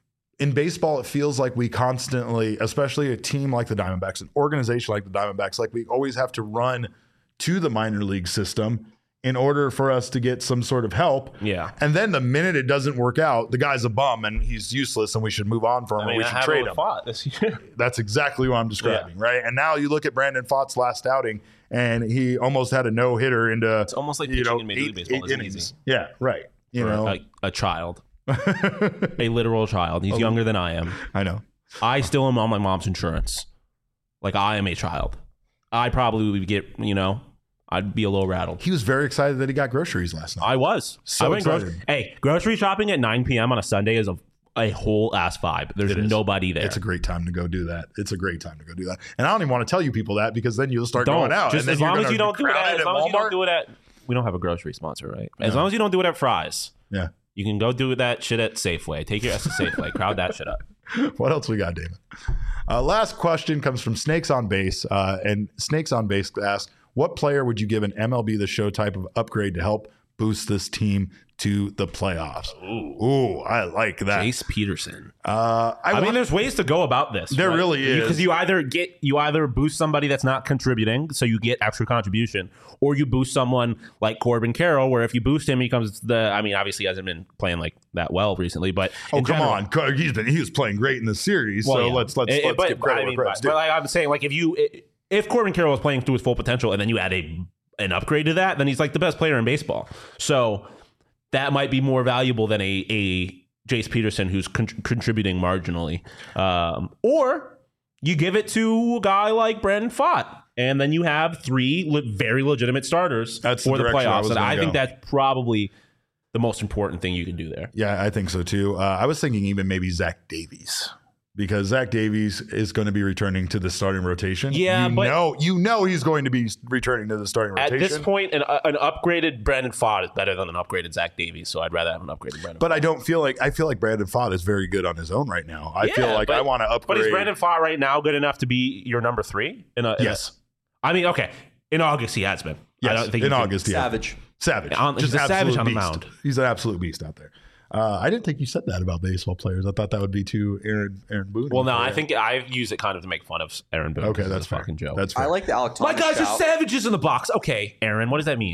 in baseball, it feels like we constantly, especially a team like the Diamondbacks, an organization like the Diamondbacks, like we always have to run to the minor league system in order for us to get some sort of help. Yeah. And then the minute it doesn't work out, the guy's a bum and he's useless and we should move on from him or we should trade him. this year. That's exactly what I'm describing, right? And now you look at Brandon Pfaadt's last outing, and he almost had a no hitter into It's almost like you pitching know in Major League eight, Baseball eight isn't innings. easy. Yeah, right. You know, a, a child, a literal child. He's younger than I am. I know. I still am on my mom's insurance. Like I am a child. I probably would get, you know, I'd be a little rattled. He was very excited that he got groceries last night. I was. So I went excited. grocery. Hey, grocery shopping at nine p.m. on a Sunday is a, a whole ass vibe. There's It is. nobody there. It's a great time to go do that. It's a great time to go do that. And I don't even want to tell you people that because then you'll start don't. going out. Just and then as you're long as gonna you don't be do it crowded at, as long as you Walmart. don't do it at, we don't have a grocery sponsor, right? As No. long as you don't do it at Fry's. Yeah. You can go do that shit at Safeway. Take your ass to Safeway. Crowd that shit up. What else we got, Damon? Uh, last question comes from Snakes on Base. Uh, and Snakes on Base asks, what player would you give an M L B The Show type of upgrade to help boost this team to the playoffs? Ooh, Ooh I like that. Jace Peterson. Uh, I, I, want, mean, there's ways to go about this. There really is. Because you either get you either boost somebody that's not contributing, so you get extra contribution, or you boost someone like Corbin Carroll, where if you boost him, he comes the. I mean, obviously, he hasn't been playing like that well recently, but oh in come general- on, Co- he's been he was playing great in the series. Well, so yeah. let's let's It- let's but, give credit I where mean, credit's but due. like I'm saying, like if you if Corbin Carroll is playing to his full potential, and then you add a an upgrade to that, then he's like the best player in baseball. So that might be more valuable than a a Jace Peterson who's con- contributing marginally, um, or you give it to a guy like Brandon Pfaadt, and then you have three le- very legitimate starters That's the for the, direction I playoffs. was And gonna I think go. that's probably the most important thing you can do there. Yeah, I think so too. Uh, I was thinking even maybe Zach Davies because Zach Davies is going to be returning to the starting rotation. Yeah, you but- know, you know he's going to be returning to the starting At rotation. this point, an, an upgraded Brandon Pfaadt is better than an upgraded Zach Davies, so I'd rather have an upgraded Brandon. But I don't feel like I feel like Brandon Pfaadt is very good on his own right now. I feel Yeah, like but- I want to upgrade. But is Brandon Pfaadt right now good enough to be your number three? In a, in a- Yes. I mean, okay. In August, he has been. I Yes, don't think in you can- August, yeah. Savage. Savage. On- he's Just a savage absolute on the beast. mound. He's an absolute beast out there. Uh, I didn't think you said that about baseball players. I thought that would be too Aaron Aaron Boone. Well, no, I think I use it kind of to make fun of Aaron Boone. Okay, It's that's a fair. fucking joke. That's fair. I like the Alec Thomas My guys are shout. savages in the box. Okay, Aaron, what does that mean?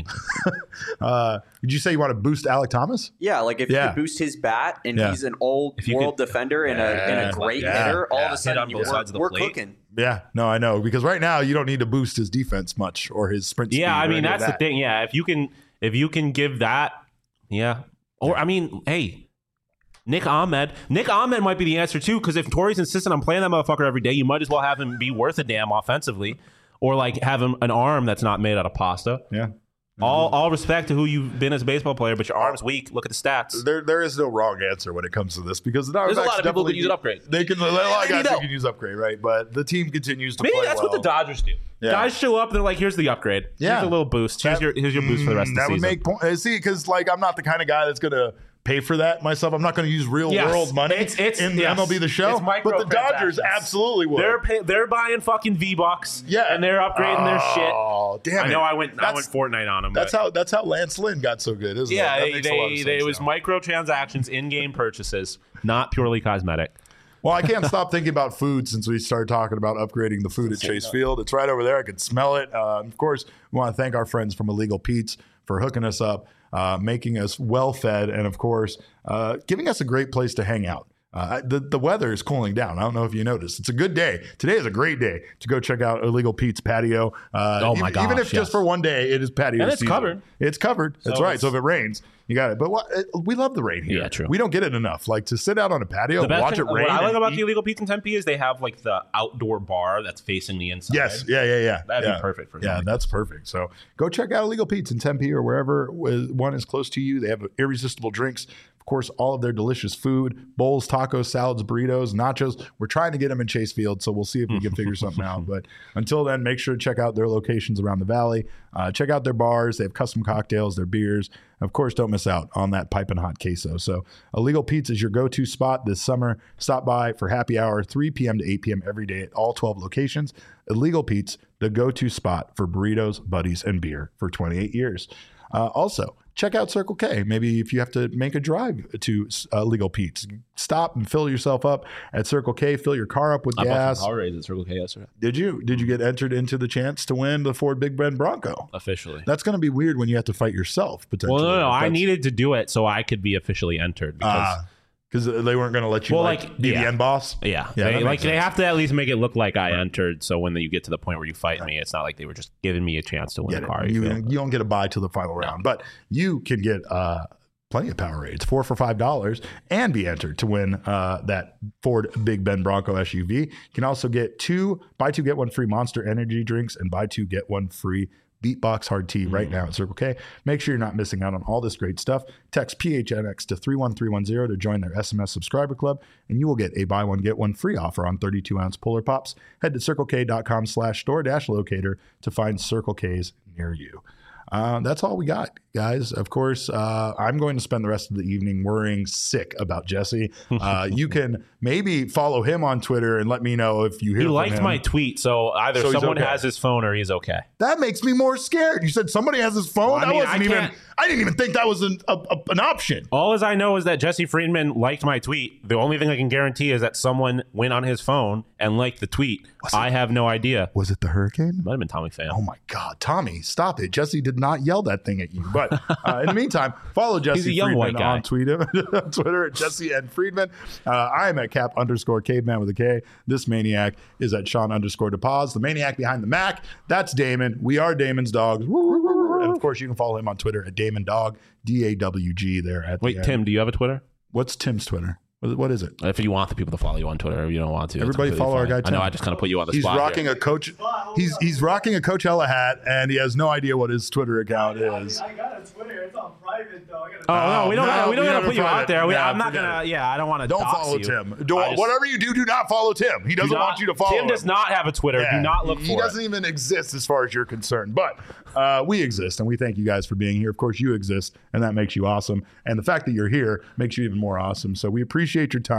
Uh, did you say you want to boost Alec Thomas? Yeah, like if Yeah. you could boost his bat and Yeah. he's an old you world could- defender and, a, and Yeah. a great Yeah. hitter, all Yeah. of a Hit sudden on you both we're, sides of the we're plate. cooking. Yeah, no, I know because right now you don't need to boost his defense much or his sprint. Yeah, speed I or mean any of that's the that. thing. Yeah, if you can, if you can give that, yeah. Or I mean, hey, Nick Ahmed. Nick Ahmed might be the answer too. Because if Torrey's insistent on playing that motherfucker every day, you might as well have him be worth a damn offensively, or like have him an arm that's not made out of pasta. Yeah. All all respect to who you've been as a baseball player, but your arm's weak. Look at the stats. There, there is no wrong answer when it comes to this because the Diamondbacks There's a lot of people that definitely- use an upgrade. They can, a lot of They guys need that help. can use upgrade, right? But the team continues to Maybe play that's well. what the Dodgers do. Yeah. Guys show up, they're like, "Here's the upgrade. Yeah. Here's a little boost. Here's That- your here's your boost for the rest of the that season." would make point. uh, See, because like I'm not the kind of guy that's gonna pay for that myself. I'm not going to use real Yes. world money It's- it's- in the yes. M L B The Show. It's But the Dodgers microtransactions. absolutely would. They're pay, they're buying fucking V Bucks. Yeah. and they're upgrading their shit. Oh, damn I it. know I went I That's- went Fortnite on them. That's but how that's how Lance Lynn got so good, isn't yeah, it? That they, makes a lot of they, sense they, it was now. microtransactions, in-game purchases, not purely cosmetic. Well, I can't stop thinking about food since we started talking about upgrading the food at Chase Field. It's right over there. I can smell it. Uh, of course, we want to thank our friends from Illegal Pete's for hooking us up, uh, making us well fed, and of course, uh, giving us a great place to hang out. Uh, the, the weather is cooling down. I don't know if you noticed. It's a good day. Today is a great day to go check out Illegal Pete's patio. Uh, Oh, my even, even gosh, if yes. just for one day, it is patio And it's season. covered. It's covered. That's So right. it's- So if it rains, you got it. But what, it, we love the rain here. Yeah, true. We don't get it enough. Like to sit out on a patio, The best watch thing, it rain. what I like and about eat- the Illegal Pizza in Tempe is they have like the outdoor bar that's facing the inside. Yes, yeah, yeah, yeah. That'd be yeah. perfect for Yeah, something. that's perfect. So go check out Illegal Pete's in Tempe or wherever one is close to you. They have irresistible drinks. Of course, all of their delicious food, bowls, tacos, salads, burritos, nachos. We're trying to get them in Chase Field, so we'll see if we can figure something out. But until then, make sure to check out their locations around the valley. Uh, check out their bars. They have custom cocktails, their beers. Of course, don't miss out on that piping hot queso. So Illegal Pete's is your go-to spot this summer. Stop by for happy hour, three p.m. to eight p.m. every day at all twelve locations. Illegal Pete's, the go-to spot for burritos, buddies, and beer for twenty-eight years. Uh, also, check out Circle K. Maybe if you have to make a drive to uh, Illegal Pete's, stop and fill yourself up at Circle K. Fill your car up with I bought gas. some Powerades at Circle K yesterday. Did you? Did you get entered into the chance to win the Ford Big Ben Bronco? Officially. That's going to be weird when you have to fight yourself potentially. Well, no, no, no. I That's- needed to do it so I could be officially entered because Ah, because they weren't going to let you Well, like, like, be yeah. the end boss. yeah, Yeah, they, that like makes they sense. have to at least make it look like I entered. So when you get to the point where you fight me, it's not like they were just giving me a chance to win Get the it. car. You, You feel? you don't get a buy till the final round, but you can get uh, plenty of Powerades, four for five dollars, and be entered to win uh, that Ford Big Ben Bronco S U V. You can also get two buy two get one free Monster Energy drinks and buy two get one free Beatbox Hard Tea right now at Circle K. Make sure you're not missing out on all this great stuff. Text P H N X to three one three one zero to join their S M S subscriber club, and you will get a buy one, get one free offer on thirty-two ounce Polar Pops. Head to circlek.com slash store dash locator to find Circle K's near you. Uh, that's all we got, guys. Of course, uh, I'm going to spend the rest of the evening worrying sick about Jesse. Uh, you can maybe follow him on Twitter and let me know if you hear He from liked him. my tweet, so either So he's someone okay. has his phone or he's okay. That makes me more scared. You said somebody has his phone. Well, I that mean, wasn't I even. can't- I didn't even think that was an a, a, an option. All as I know is that Jesse Friedman liked my tweet. The only thing I can guarantee is that someone went on his phone and liked the tweet. I have no idea. Was it the hurricane? Might have been Tommy Pham. Oh my God, Tommy, stop it! Jesse did not yell that thing at you. But uh, in the meantime, follow Jesse He's a young Friedman white guy. on Twitter, on Twitter at Jesse and Friedman. Uh, I am at Cap underscore Caveman with a K. This maniac is at Sean underscore DePaz. The maniac behind the Mac. That's Damon. We are Damon's dogs. And of course, you can follow him on Twitter at Damon Dog, D A W G. There at Wait, the end. Tim, do you have a Twitter? What's Tim's Twitter? What what is it? If you want the people to follow you on Twitter, if you don't want to, it's Everybody completely follow our fine. guy I know Tim. I just kind of put you on the He's spot. rocking here. a coach. He's he's rocking a Coachella hat, and he has no idea what his Twitter account is. I got a Twitter. It's on private though. I got Oh no, we don't. no, gotta, we don't we gotta never put you private. out there. We, Yeah, I'm not forget gonna. it. Yeah, I don't want to. Don't dox follow you. Tim. Do, I just- whatever you do, do not follow Tim. He doesn't do not- want you to follow Tim him. does not have a Twitter. Yeah. Do not look He for doesn't it. even exist as far as you're concerned. But uh, we exist, and we thank you guys for being here. Of course, you exist, and that makes you awesome. And the fact that you're here makes you even more awesome. So we appreciate your time.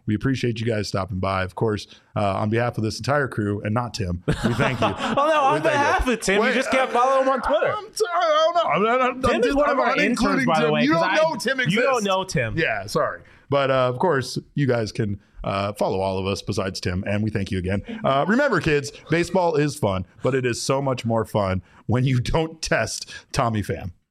We appreciate you guys stopping by. Of course, uh, on behalf of this entire crew and not Tim, we thank you. Oh, no, on behalf of Tim, Wait, you just can't follow him on Twitter. I'm sorry, I don't know. I'm, I'm, Tim I'm is one of our interns, by the way. You don't I, know Tim exists. You don't know Tim. Yeah, sorry. But uh, of course, you guys can uh, follow all of us besides Tim, and we thank you again. Uh, remember, kids, baseball is fun, but it is so much more fun when you don't test Tommy Pham.